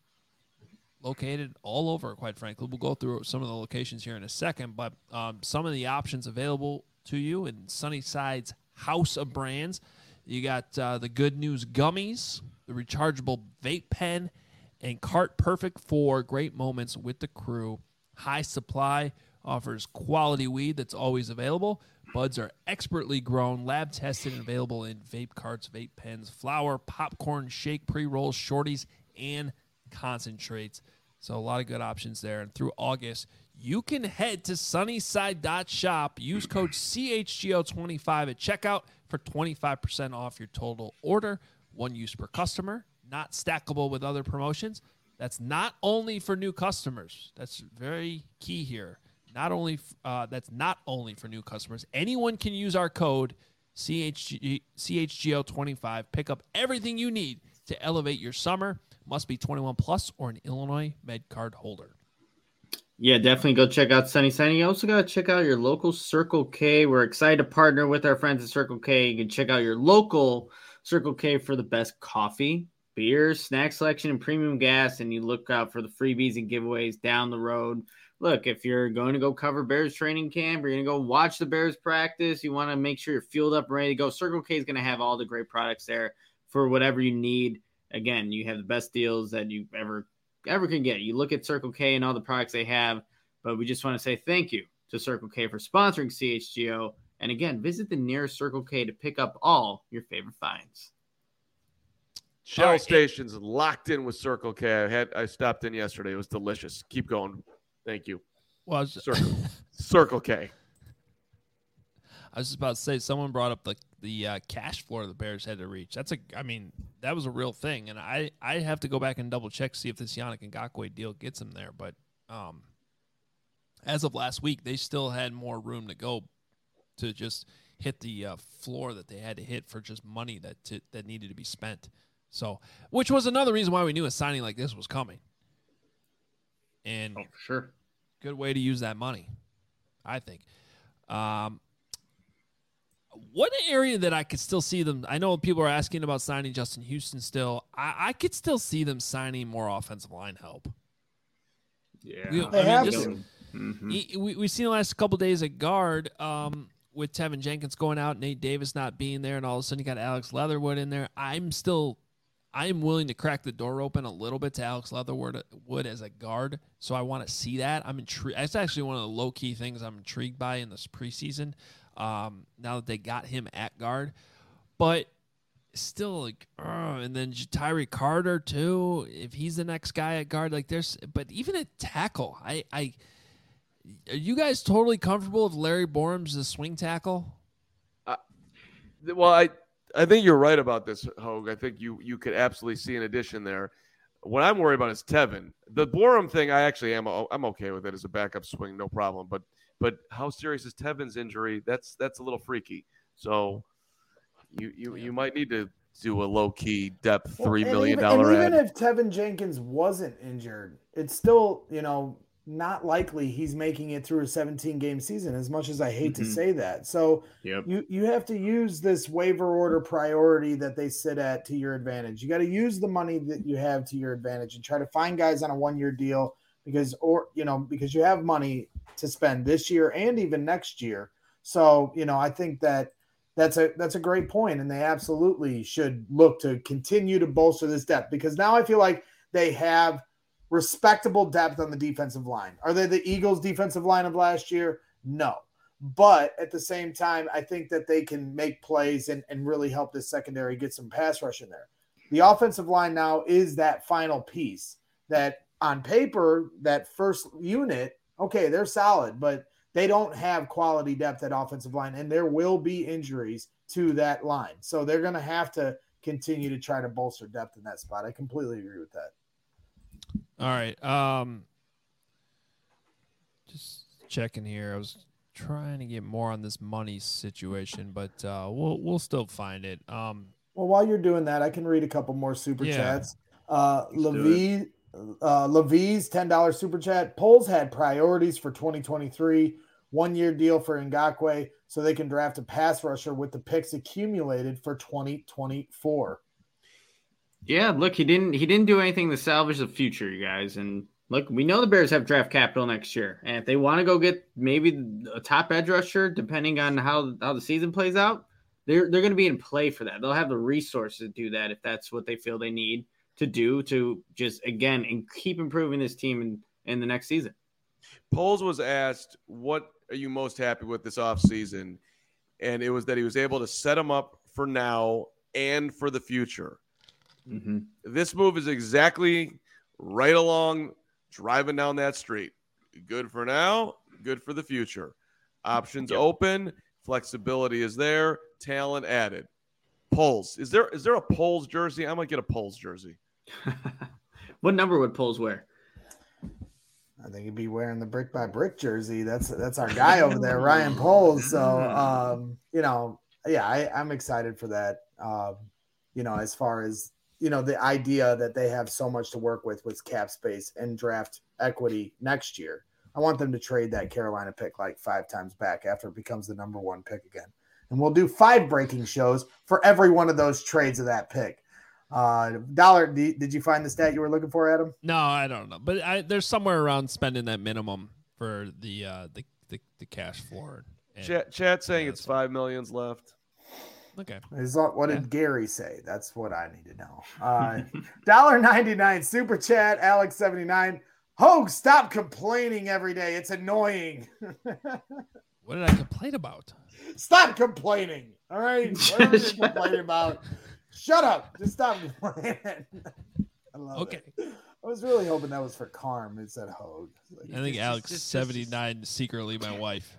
A: located all over, quite frankly. We'll go through some of the locations here in a second, but some of the options available to you in Sunnyside's house of brands. You got the Good News Gummies, the rechargeable vape pen, and Cart Perfect for great moments with the crew. High Supply offers quality weed that's always available. Buds are expertly grown, lab tested, and available in vape carts, vape pens, flour, popcorn, shake, pre-rolls, shorties, and concentrates. So a lot of good options there. And through August, you can head to sunnyside.shop. Use code CHGO25 at checkout for 25% off your total order. One use per customer, not stackable with other promotions. That's not only for new customers. That's very key here. That's not only for new customers. Anyone can use our code CHGO25. Pick up everything you need to elevate your summer. Must be 21 plus or an Illinois MedCard holder.
D: Yeah, definitely go check out Sunnyside. You also got to check out your local Circle K. We're excited to partner with our friends at Circle K. You can check out your local Circle K for the best coffee, beer, snack selection, and premium gas. And you look out for the freebies and giveaways down the road. Look, if you're going to go cover Bears training camp, or you're going to go watch the Bears practice, you want to make sure you're fueled up and ready to go. Circle K is going to have all the great products there for whatever you need. Again, you have the best deals that you ever can get. You look at Circle K and all the products they have, but we just want to say thank you to Circle K for sponsoring CHGO. And again, visit the nearest Circle K to pick up all your favorite finds.
C: Shell
A: All right,
C: stations locked in with Circle K. I stopped in yesterday. It was delicious. Keep going. Thank you.
A: Well,
C: Circle K.
A: I was just about to say, someone brought up the cash floor the Bears had to reach. That was a real thing, and I have to go back and double check to see if this Yannick Ngakoue deal gets him there. But as of last week, they still had more room to go to just hit the floor that they had to hit for just money that needed to be spent. So, which was another reason why we knew a signing like this was coming. And
D: for sure,
A: good way to use that money, I think. One area that I could still see them, I know people are asking about signing Justin Houston still. I could still see them signing more offensive line help.
D: Yeah.
B: They have to.
A: We've seen the last couple of days at guard with Tevin Jenkins going out, Nate Davis not being there, and all of a sudden you got Alex Leatherwood in there. I am willing to crack the door open a little bit to Alex Leatherwood as a guard, so I want to see that. I'm intrigued. That's actually one of the low-key things I'm intrigued by in this preseason. Now that they got him at guard, but still and then Tyree Carter too, if he's the next guy at guard, but even at tackle, are you guys totally comfortable if Larry Borum's the swing tackle?
C: Well, I think you're right about this, Hogue. I think you could absolutely see an addition there. What I'm worried about is Tevin. The Borum thing, I'm okay with it as a backup swing, no problem. But how serious is Tevin's injury? That's a little freaky. So you might need to do a low key depth $3 million ad.
B: Even if Tevin Jenkins wasn't injured, it's still not likely he's making it through a 17-game season. As much as I hate to say that, so you have to use this waiver order priority that they sit at to your advantage. You got to use the money that you have to your advantage and try to find guys on a 1-year deal because you have money to spend this year and even next year. So, I think that's a great point, and they absolutely should look to continue to bolster this depth because now I feel like they have respectable depth on the defensive line. Are they the Eagles' defensive line of last year? No. But at the same time, I think that they can make plays and really help this secondary get some pass rush in there. The offensive line now is that final piece that on paper, that first unit, okay, they're solid, but they don't have quality depth at offensive line, and there will be injuries to that line. So they're going to have to continue to try to bolster depth in that spot. I completely agree with that.
A: All right. Just checking here. I was trying to get more on this money situation, but we'll still find it.
B: Well, while you're doing that, I can read a couple more super chats. Levy's $10 super chat. Polls had priorities for 2023. 1-year deal for Ngakoue so they can draft a pass rusher with the picks accumulated for 2024.
D: Yeah, look, he didn't do anything to salvage the future, you guys. And look, we know the Bears have draft capital next year. And if they want to go get maybe a top edge rusher, depending on how the season plays out, they're going to be in play for that. They'll have the resources to do that if that's what they feel they need to do to just, again, and keep improving this team in the next season.
C: Poles was asked, what are you most happy with this offseason? And it was that he was able to set him up for now and for the future.
D: Mm-hmm.
C: This move is exactly right along driving down that street. Good for now, good for the future. Options open, flexibility is there, talent added. Poles. Is there a Poles jersey? I might get a Poles jersey.
D: What number would Poles wear?
B: I think he'd be wearing the brick by brick jersey. That's our guy over there, Ryan Poles. So, I'm excited for that. As far as, the idea that they have so much to work with cap space and draft equity next year. I want them to trade that Carolina pick like 5 times back after it becomes the number 1 pick again. And we'll do 5 breaking shows for every one of those trades of that pick. Dollar, did you find the stat you were looking for, Adam?
A: No, I don't know, but there's somewhere around spending that minimum for the cash floor.
C: Chat saying it's 5 millions left.
A: Okay.
B: What did Gary say? That's what I need to know. $1.99 super chat, Alex79. Hogue, stop complaining every day. It's annoying.
A: What did I complain about?
B: Stop complaining. All right. Whatever you're complaining about. Shut up. Just stop playing it. I love it. I was really hoping that was for Carm. It said Hogue. Like,
A: I think Alex 79 secretly my wife.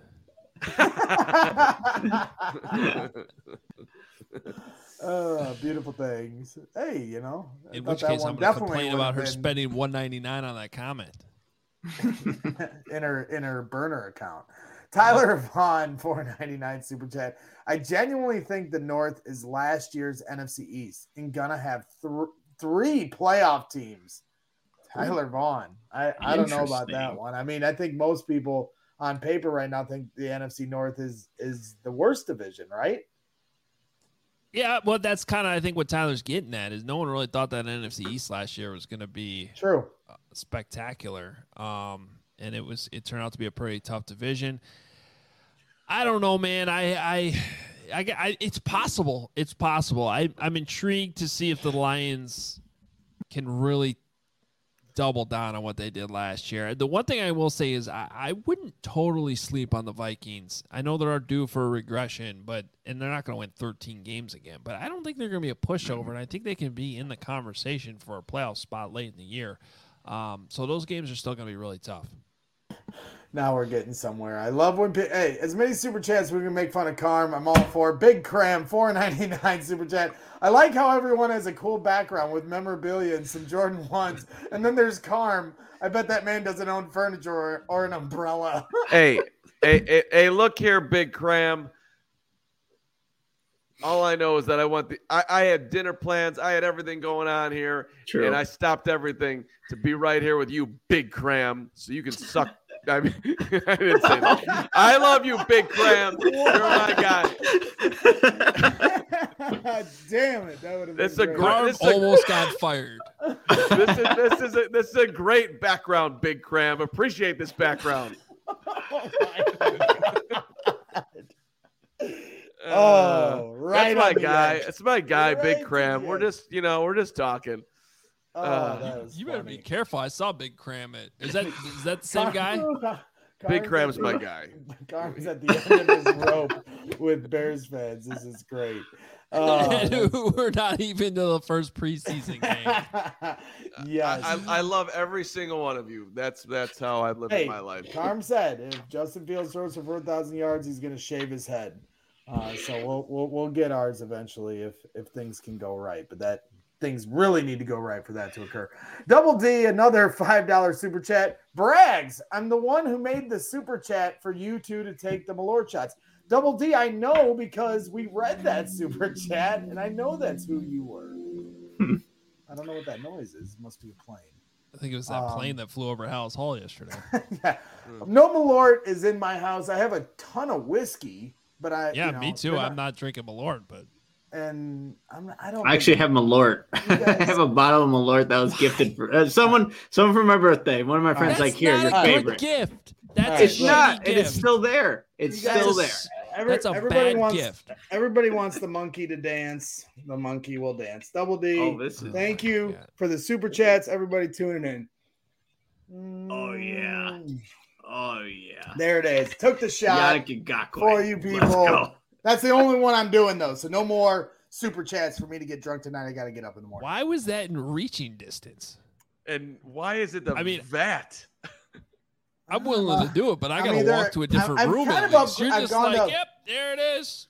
B: Beautiful things. Hey, you know.
A: In which case, I'm going to complain about her spending $199 on that comment.
B: in her burner account. Tyler Vaughn, $4.99 super chat. I genuinely think the North is last year's NFC East and gonna have three playoff teams. Tyler Vaughn. I don't know about that one. I mean, I think most people on paper right now think the NFC North is the worst division, right?
A: Yeah, well, that's kind of I think what Tyler's getting at is no one really thought that NFC East last year was going to be
B: true,
A: spectacular, and it turned out to be a pretty tough division. I don't know, man. I it's possible. It's possible. I'm intrigued to see if the Lions can really double down on what they did last year. The one thing I will say is I wouldn't totally sleep on the Vikings. I know they're due for a regression, and they're not going to win 13 games again, but I don't think they're going to be a pushover, and I think they can be in the conversation for a playoff spot late in the year. So those games are still going to be really tough.
B: Now we're getting somewhere. I love when as many super chats we can make fun of Carm. I'm all for Big Cram, $4.99 super chat. I like how everyone has a cool background with memorabilia and some Jordan 1s. And then there's Carm. I bet that man doesn't own furniture or an umbrella.
C: Hey, look here, Big Cram. All I know is that I had dinner plans. I had everything going on here.
D: True.
C: And I stopped everything to be right here with you, Big Cram, so you can suck. I mean, I didn't say that. I love you, Big Cram. You're my guy.
B: Damn it! That would have
A: been almost got fired.
C: This is a great background, Big Cram. Appreciate this background.
B: Right.
C: That's my guy. It's my guy,
B: Right
C: Big Cram. We're just talking.
A: You better be careful. I saw Big Cram. Is that the same guy?
C: Big Cram's my guy.
B: Carm's at the end of his rope with Bears fans. This is great.
A: We're not even to the first preseason game.
B: Yes,
C: I love every single one of you. That's how I live my life.
B: Carm said if Justin Fields throws for 4,000 yards, he's going to shave his head. So we'll get ours eventually if things can go right. But that things really need to go right for that to occur. Double D, another $5 super chat. Brags, I'm the one who made the super chat for you two to take the Malort shots. Double D, I know because we read that super chat, and I know that's who you were. I don't know what that noise is. It must be a plane.
A: I think it was that plane that flew over Hallis Hall yesterday.
B: Yeah. No Malort is in my house. I have a ton of whiskey, but
A: me too. I'm not drinking Malort, but.
B: And I
D: actually have Malort. I have a bottle of Malort that was gifted for someone for my birthday. One of my friends here's your favorite
A: gift.
D: It's not, and it's still there. It's still there.
A: That's a bad gift.
B: Everybody wants the monkey to dance. The monkey will dance. Double D. Thank you for the super chats. Everybody tuning in.
D: Oh yeah.
B: There it is. Took the shot for you people.
D: Let's go.
B: That's the only one I'm doing, though. So no more super chats for me to get drunk tonight. I got to get up in the morning.
A: Why was that in reaching distance?
C: And why is it vat?
A: I'm willing to do it, but I got to walk to a different room. You're just like, yep, there it is.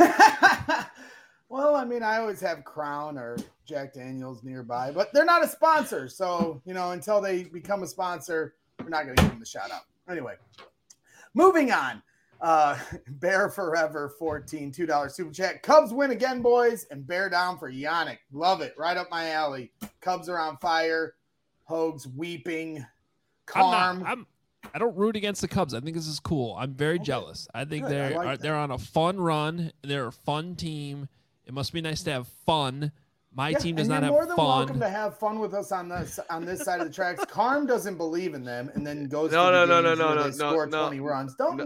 B: Well, I mean, I always have Crown or Jack Daniels nearby, but they're not a sponsor. So, until they become a sponsor, we're not going to give them the shout out. Anyway, moving on. Bear Forever 14, $2 super chat. Cubs win again, boys, and bear down for Yannick. Love it. Right up my alley. Cubs are on fire. Hogue's weeping. Carm.
A: I don't root against the Cubs. I think this is cool. I'm very jealous. I think they're on a fun run. They're a fun team. It must be nice to have fun. My team does not have fun.
B: You're more than welcome to have fun with us on this side of the tracks. Carm doesn't believe in them, and then goes to score 20 runs. No.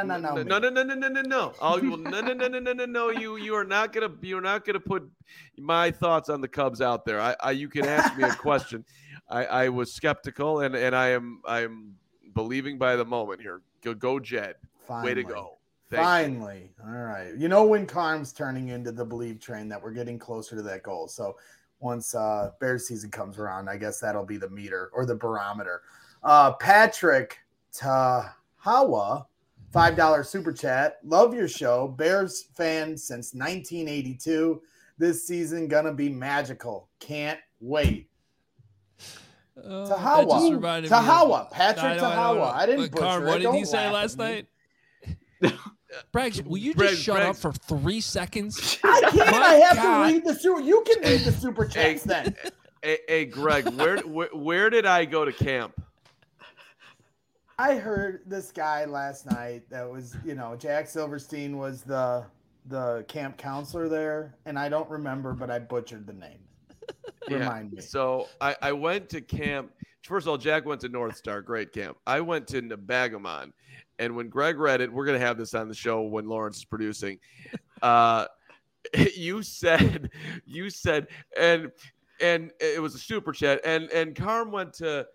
B: You
C: are not gonna put my thoughts on the Cubs out there. You can ask me a question. I was skeptical, and I am believing by the moment here. Go Jed.
B: Finally.
C: Way to go.
B: Finally. All right. You know when Carm's turning into the Believe train that we're getting closer to that goal. So once Bears season comes around, I guess that'll be the meter or the barometer. Patrick Tahawa, $5 super chat. Love your show. Bears fan since 1982. This season gonna be magical. Can't wait. Tahawa. Patrick Tahawa. I didn't butcher
A: Carm,
B: it.
A: what did
B: Don't
A: he say
B: laugh
A: last
B: at me.
A: night? Braggs, will you just shut up for 3 seconds?
B: I can't.
A: My
B: I have
A: God.
B: to read the super. You can read the super chats then.
C: Hey, Greg, where did I go to camp?
B: I heard this guy last night that was, Jack Silverstein was the camp counselor there, and I don't remember, but I butchered the name. Remind me.
C: So I went to camp. First of all, Jack went to North Star, great camp. I went to Nebagamon, and when Greg read it, we're going to have this on the show when Lawrence is producing. You said, and it was a super chat, and Carm went to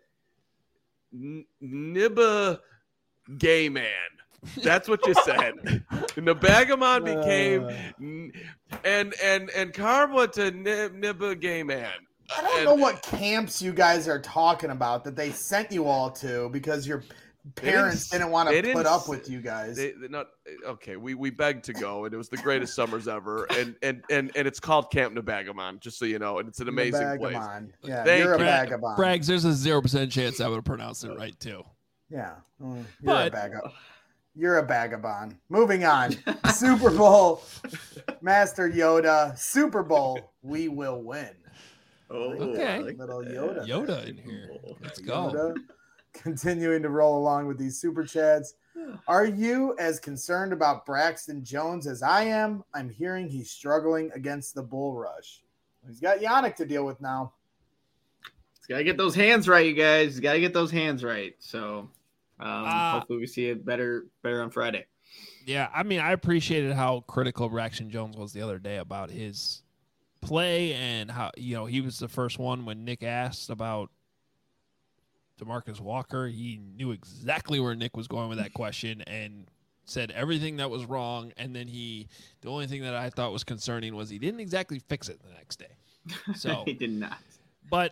C: Nibba Gay Man. That's what you said. Nebagamon became, and Carm went to Nibba Gay Man.
B: I don't know what camps you guys are talking about that they sent you all to because your parents didn't want to put up with you guys.
C: They're not okay. We begged to go, and it was the greatest summers ever. And it's called Camp Nebagamon, just so you know. And it's an amazing place.
B: Yeah,
C: Thank
B: you're a
C: you.
B: vagabond.
A: Braggs, there's a 0% chance I would have pronounced it right too.
B: Yeah,
A: But-
B: you're a vagabond. Moving on. Super Bowl, Master Yoda. Super Bowl, we will win.
D: Oh,
A: Okay.
D: I like
B: Little
D: that.
B: Yoda.
A: Yoda in here. Let's go.
B: Yoda. Continuing to roll along with these super chats. Are you as concerned about Braxton Jones as I am? I'm hearing he's struggling against the bull rush. He's got Yannick to deal with now.
D: He's got to get those hands right, you guys. He's got to get those hands right. So hopefully we see it better on Friday.
A: Yeah, I mean, I appreciated how critical Braxton Jones was the other day about his play and how, he was the first one when Nick asked about DeMarcus Walker. He knew exactly where Nick was going with that question and said everything that was wrong. And then the only thing that I thought was concerning was he didn't exactly fix it the next day. So
D: He did not.
A: But,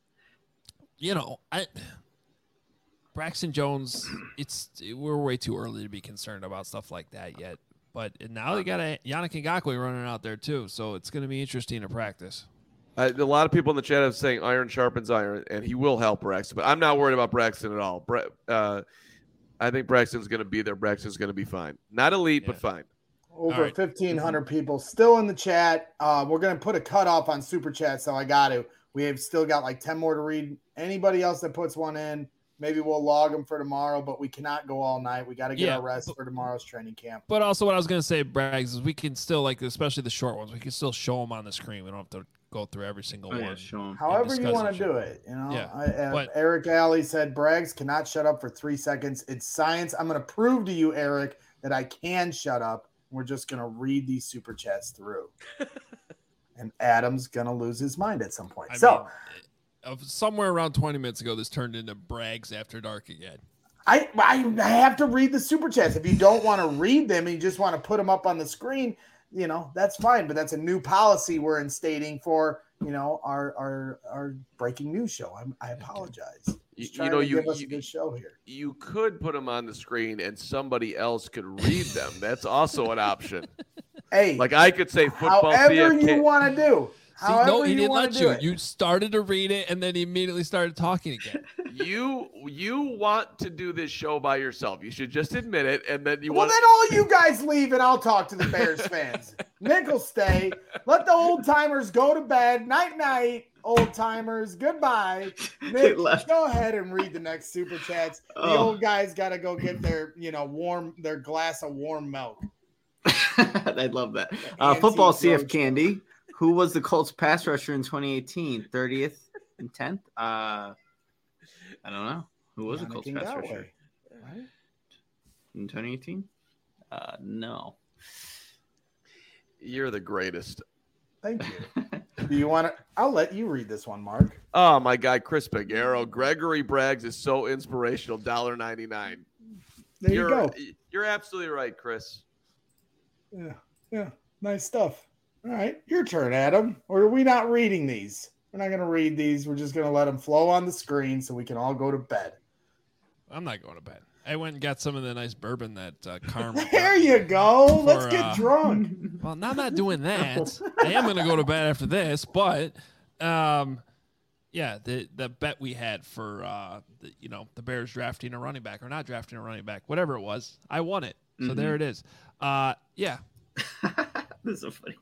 A: Braxton Jones, we're way too early to be concerned about stuff like that yet. But now they got Yannick Ngakoue running out there too, so it's going to be interesting to practice.
C: A lot of people in the chat are saying iron sharpens iron, and he will help Braxton. But I'm not worried about Braxton at all. I think Braxton's going to be there. Braxton's going to be fine. Not elite, but fine.
B: Over
A: right.
B: 1,500 people still in the chat. We're going to put a cutoff on super chat, so I got to. We have still got like 10 more to read. Anybody else that puts one in, maybe we'll log them for tomorrow, but we cannot go all night. We got to get our rest for tomorrow's training camp.
A: But also what I was going to say, Braggs, is we can still, especially the short ones, we can still show them on the screen. We don't have to go through every single one.
D: Show him.
B: However you want to do it. Eric Alley said, Braggs cannot shut up for 3 seconds. It's science. I'm going to prove to you, Eric, that I can shut up. We're just going to read these super chats through. And Adam's going to lose his mind at some point.
A: Somewhere around 20 minutes ago, this turned into Braggs After Dark again.
B: I have to read the super chats. If you don't want to read them and you just want to put them up on the screen, that's fine. But that's a new policy we're instating for, our breaking news show. I apologize. Just trying to give us a good show here.
C: You could put them on the screen and somebody else could read them. That's also an option.
B: Hey,
C: like I could say football.
B: However
C: CFK.
B: you want to do.
A: See, no, he didn't let you. You started to read it, and then he immediately started talking again.
C: You want to do this show by yourself. You should just admit it, and then
B: then all you guys leave, and I'll talk to the Bears fans. Nick will stay. Let the old timers go to bed. Night, night, old timers. Goodbye. Nick, go ahead and read the next super chats. The old guys got to go get their their glass of warm milk.
D: I'd love that. Football CF Candy. Who was the Colts pass rusher in 2018? 30th and 10th? I don't know. Who was the Colts pass rusher?
B: Right?
D: In 2018? No.
C: You're the greatest.
B: Thank you. Do you want to? I'll let you read this one, Mark.
C: Oh, my guy, Chris Pagaro. Gregory Braggs is so inspirational. $1.99.
B: There you go.
C: You're absolutely right, Chris.
B: Yeah. Nice stuff. All right, your turn, Adam. Or are we not reading these? We're not going to read these. We're just going to let them flow on the screen so we can all go to bed.
A: I'm not going to bed. I went and got some of the nice bourbon that Karma.
B: There you go. Let's get drunk.
A: Well, now I'm not doing that. I am going to go to bed after this, but yeah, the bet we had for the Bears drafting a running back or not drafting a running back, whatever it was, I won it. So there it is. Yeah.
D: This is so funny.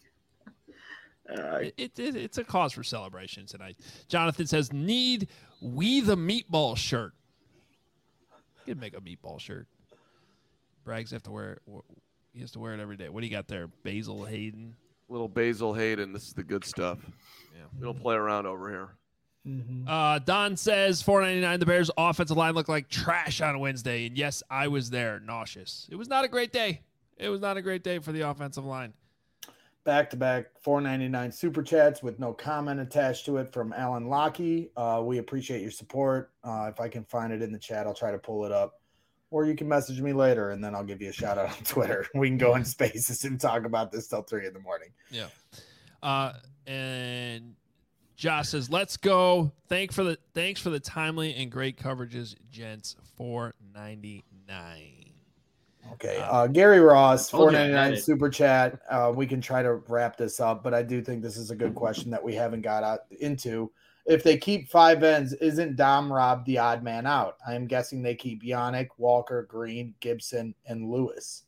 A: It's a cause for celebration tonight. Jonathan says, "Need we the meatball shirt?" You could make a meatball shirt. Braggs have to wear it. He has to wear it every day. What do you got there? Basil Hayden.
C: Little Basil Hayden. This is the good stuff.
A: Yeah.
C: We don't play around over here.
B: Mm-hmm.
A: Don says, $4.99. The Bears' offensive line looked like trash on Wednesday, and yes, I was there, nauseous. It was not a great day. It was not a great day for the offensive line.
B: Back-to-back $4.99 super chats with no comment attached to it from Alan Lockey. We appreciate your support. If I can find it in the chat, I'll try to pull it up. Or you can message me later, and then I'll give you a shout-out on Twitter. We can go in spaces and talk about this till 3 a.m.
A: Yeah. And Josh says, "Let's go. Thanks for the timely and great coverages, gents. $4.99."
B: Okay. Gary Ross, $4.99 super chat. We can try to wrap this up, but I do think this is a good question that we haven't got into. If they keep 5 ends, isn't Dom Rob the odd man out? I am guessing they keep Yannick, Walker, Green, Gibson, and Lewis.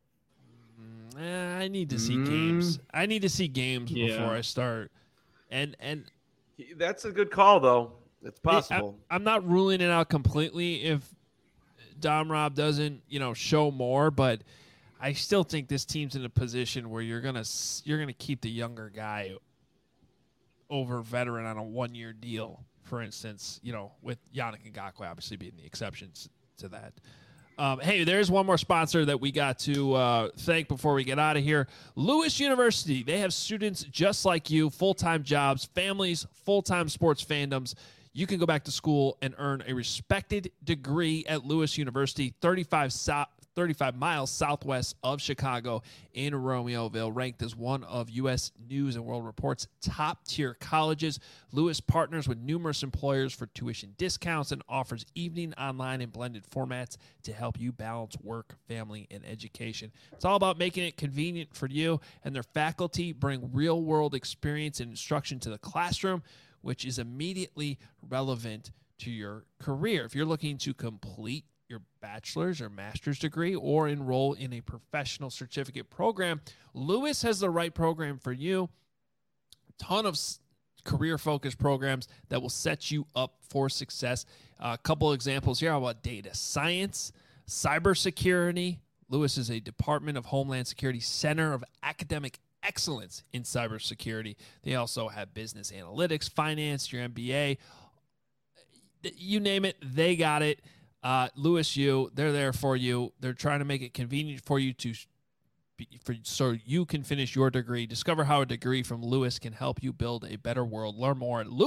A: I need to see games. I need to see games before I start. And
C: that's a good call, though. It's possible.
A: I'm not ruling it out completely if Dom Rob doesn't, show more, but I still think this team's in a position where you're gonna keep the younger guy over veteran on a 1-year deal, for instance. With Yannick Ngakoue obviously being the exceptions to that. Hey, there's one more sponsor that we got to thank before we get out of here. Lewis University. They have students just like you, full-time jobs, families, full-time sports fandoms. You can go back to school and earn a respected degree at Lewis University, 35 miles southwest of Chicago in Romeoville, ranked as one of U.S. News and World Report's top-tier colleges. Lewis partners with numerous employers for tuition discounts and offers evening, online, and blended formats to help you balance work, family, and education. It's all about making it convenient for you, and their faculty bring real-world experience and instruction to the classroom, which is immediately relevant to your career. If you're looking to complete your bachelor's or master's degree or enroll in a professional certificate program, Lewis has the right program for you. A ton of career-focused programs that will set you up for success. A couple examples here about data science, cybersecurity. Lewis is a Department of Homeland Security Center of Academic Excellence in cybersecurity. They also have business analytics, finance, your MBA. You name it, they got it. Lewis U, they're there for you. They're trying to make it convenient for you so you can finish your degree. Discover how a degree from Lewis can help you build a better world. Learn more at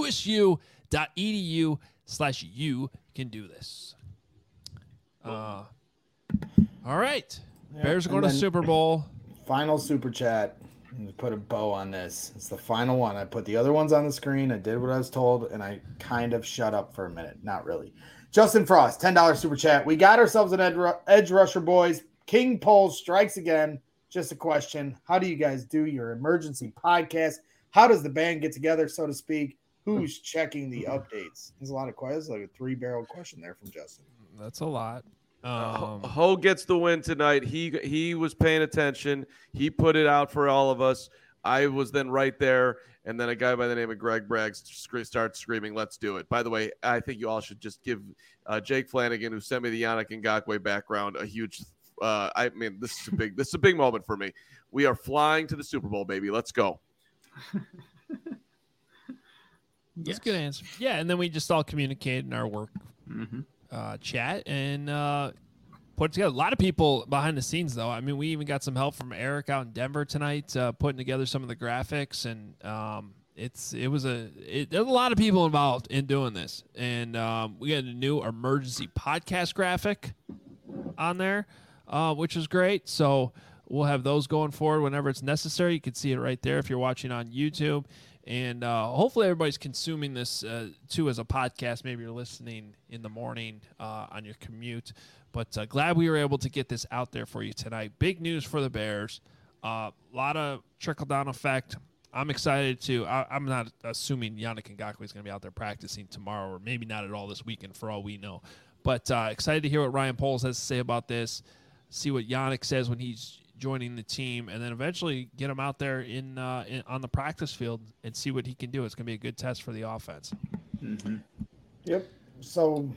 A: lewisu.edu/you can do this. All right.
B: Yeah,
A: Bears are going to Super Bowl.
B: Final super chat. Put a bow on this. It's the final one. I put the other ones on the screen. I did what I was told, and I kind of shut up for a minute. Not really. Justin Frost, $10 super chat. We got ourselves an edge rusher, boys. King Poles strikes again. Just a question. How do you guys do your emergency podcast? How does the band get together, so to speak? Who's checking the updates? There's a lot of questions. Like a 3-barrel question there from Justin.
A: That's a lot.
C: Ho gets the win tonight. He was paying attention. He put it out for all of us. I was then right there, and then a guy by the name of Greg Braggs starts screaming, "Let's do it!" By the way, I think you all should just give Jake Flanagan, who sent me the Yannick Ngakoue background, a huge. This is a big moment for me. We are flying to the Super Bowl, baby. Let's go.
A: That's a good answer. Yeah, and then we just all communicate in our work chat and put together. A lot of people behind the scenes, though. I mean, we even got some help from Eric out in Denver tonight, putting together some of the graphics, and there's a lot of people involved in doing this. And we got a new emergency podcast graphic. on there, which is great. So we'll have those going forward whenever it's necessary. You can see it right there if you're watching on YouTube. And hopefully everybody's consuming this, too, as a podcast. Maybe you're listening in the morning on your commute. But glad we were able to get this out there for you tonight. Big news for the Bears. A lot of trickle-down effect. I'm excited to. I'm not assuming Yannick Ngakoue is going to be out there practicing tomorrow, or maybe not at all this weekend for all we know. But excited to hear what Ryan Poles has to say about this, see what Yannick says when he's joining the team, and then eventually get him out there on the practice field and see what he can do. It's going to be a good test for the offense.
D: Mm-hmm.
B: Yep. So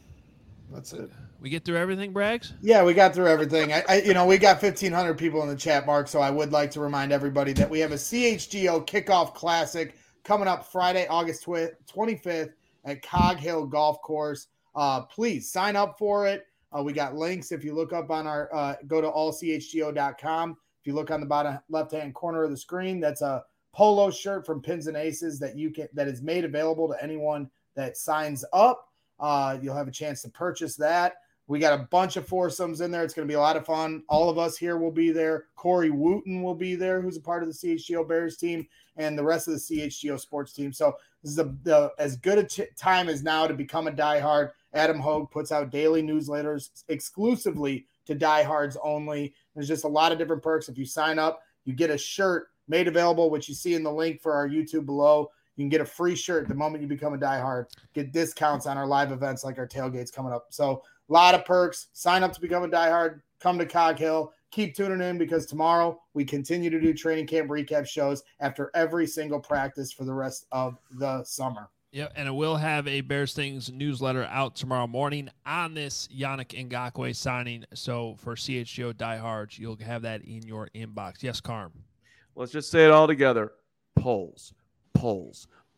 B: that's it.
A: We get through everything, Braggs?
B: Yeah, we got through everything. We got 1,500 people in the chat, Mark, so I would like to remind everybody that we have a CHGO Kickoff Classic coming up Friday, August 25th at Cog Hill Golf Course. Please sign up for it. We got links. If you look up on our go to allchgo.com. If you look on the bottom left-hand corner of the screen, that's a polo shirt from Pins and Aces that is made available to anyone that signs up. You'll have a chance to purchase that. We got a bunch of foursomes in there. It's going to be a lot of fun. All of us here will be there. Corey Wooten will be there, who's a part of the CHGO Bears team, and the rest of the CHGO sports team. So this is as good a time as now to become a diehard. Adam Hogue puts out daily newsletters exclusively to diehards only. There's just a lot of different perks. If you sign up, you get a shirt made available, which you see in the link for our YouTube below. You can get a free shirt the moment you become a diehard. Get discounts on our live events like our tailgates coming up. So a lot of perks. Sign up to become a diehard. Come to Cog Hill. Keep tuning in because tomorrow we continue to do training camp recap shows after every single practice for the rest of the summer.
A: Yeah, and it will have a Bears Things newsletter out tomorrow morning on this Yannick Ngakoue signing. So for CHGO diehards, you'll have that in your inbox. Yes, Carm.
C: Let's just say it all together. Polls. Warren.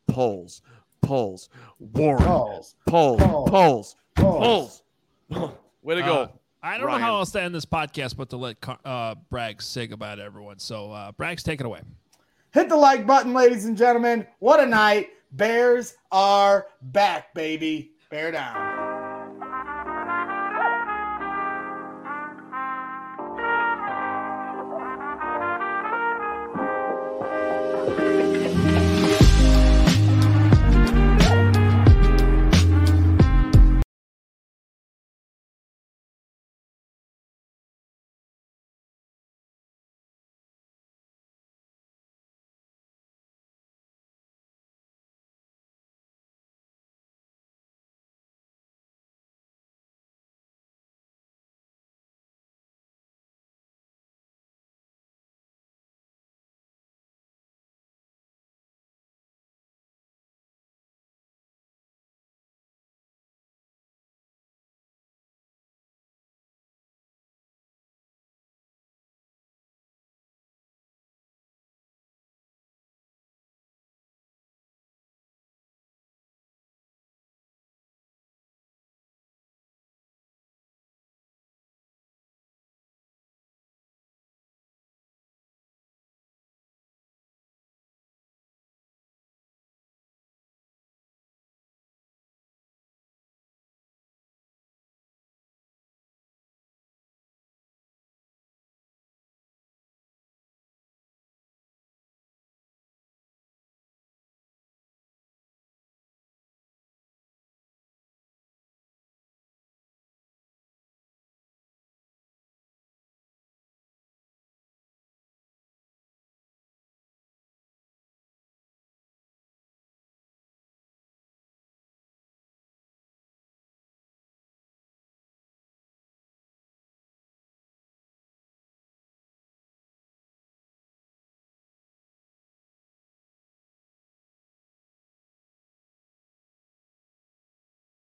C: Polls. Way to go.
A: I don't know how else to end this podcast but to let Braggs say goodbye to everyone. So, Braggs, take it away.
B: Hit the like button, ladies and gentlemen. What a night. Bears are back, baby. Bear down.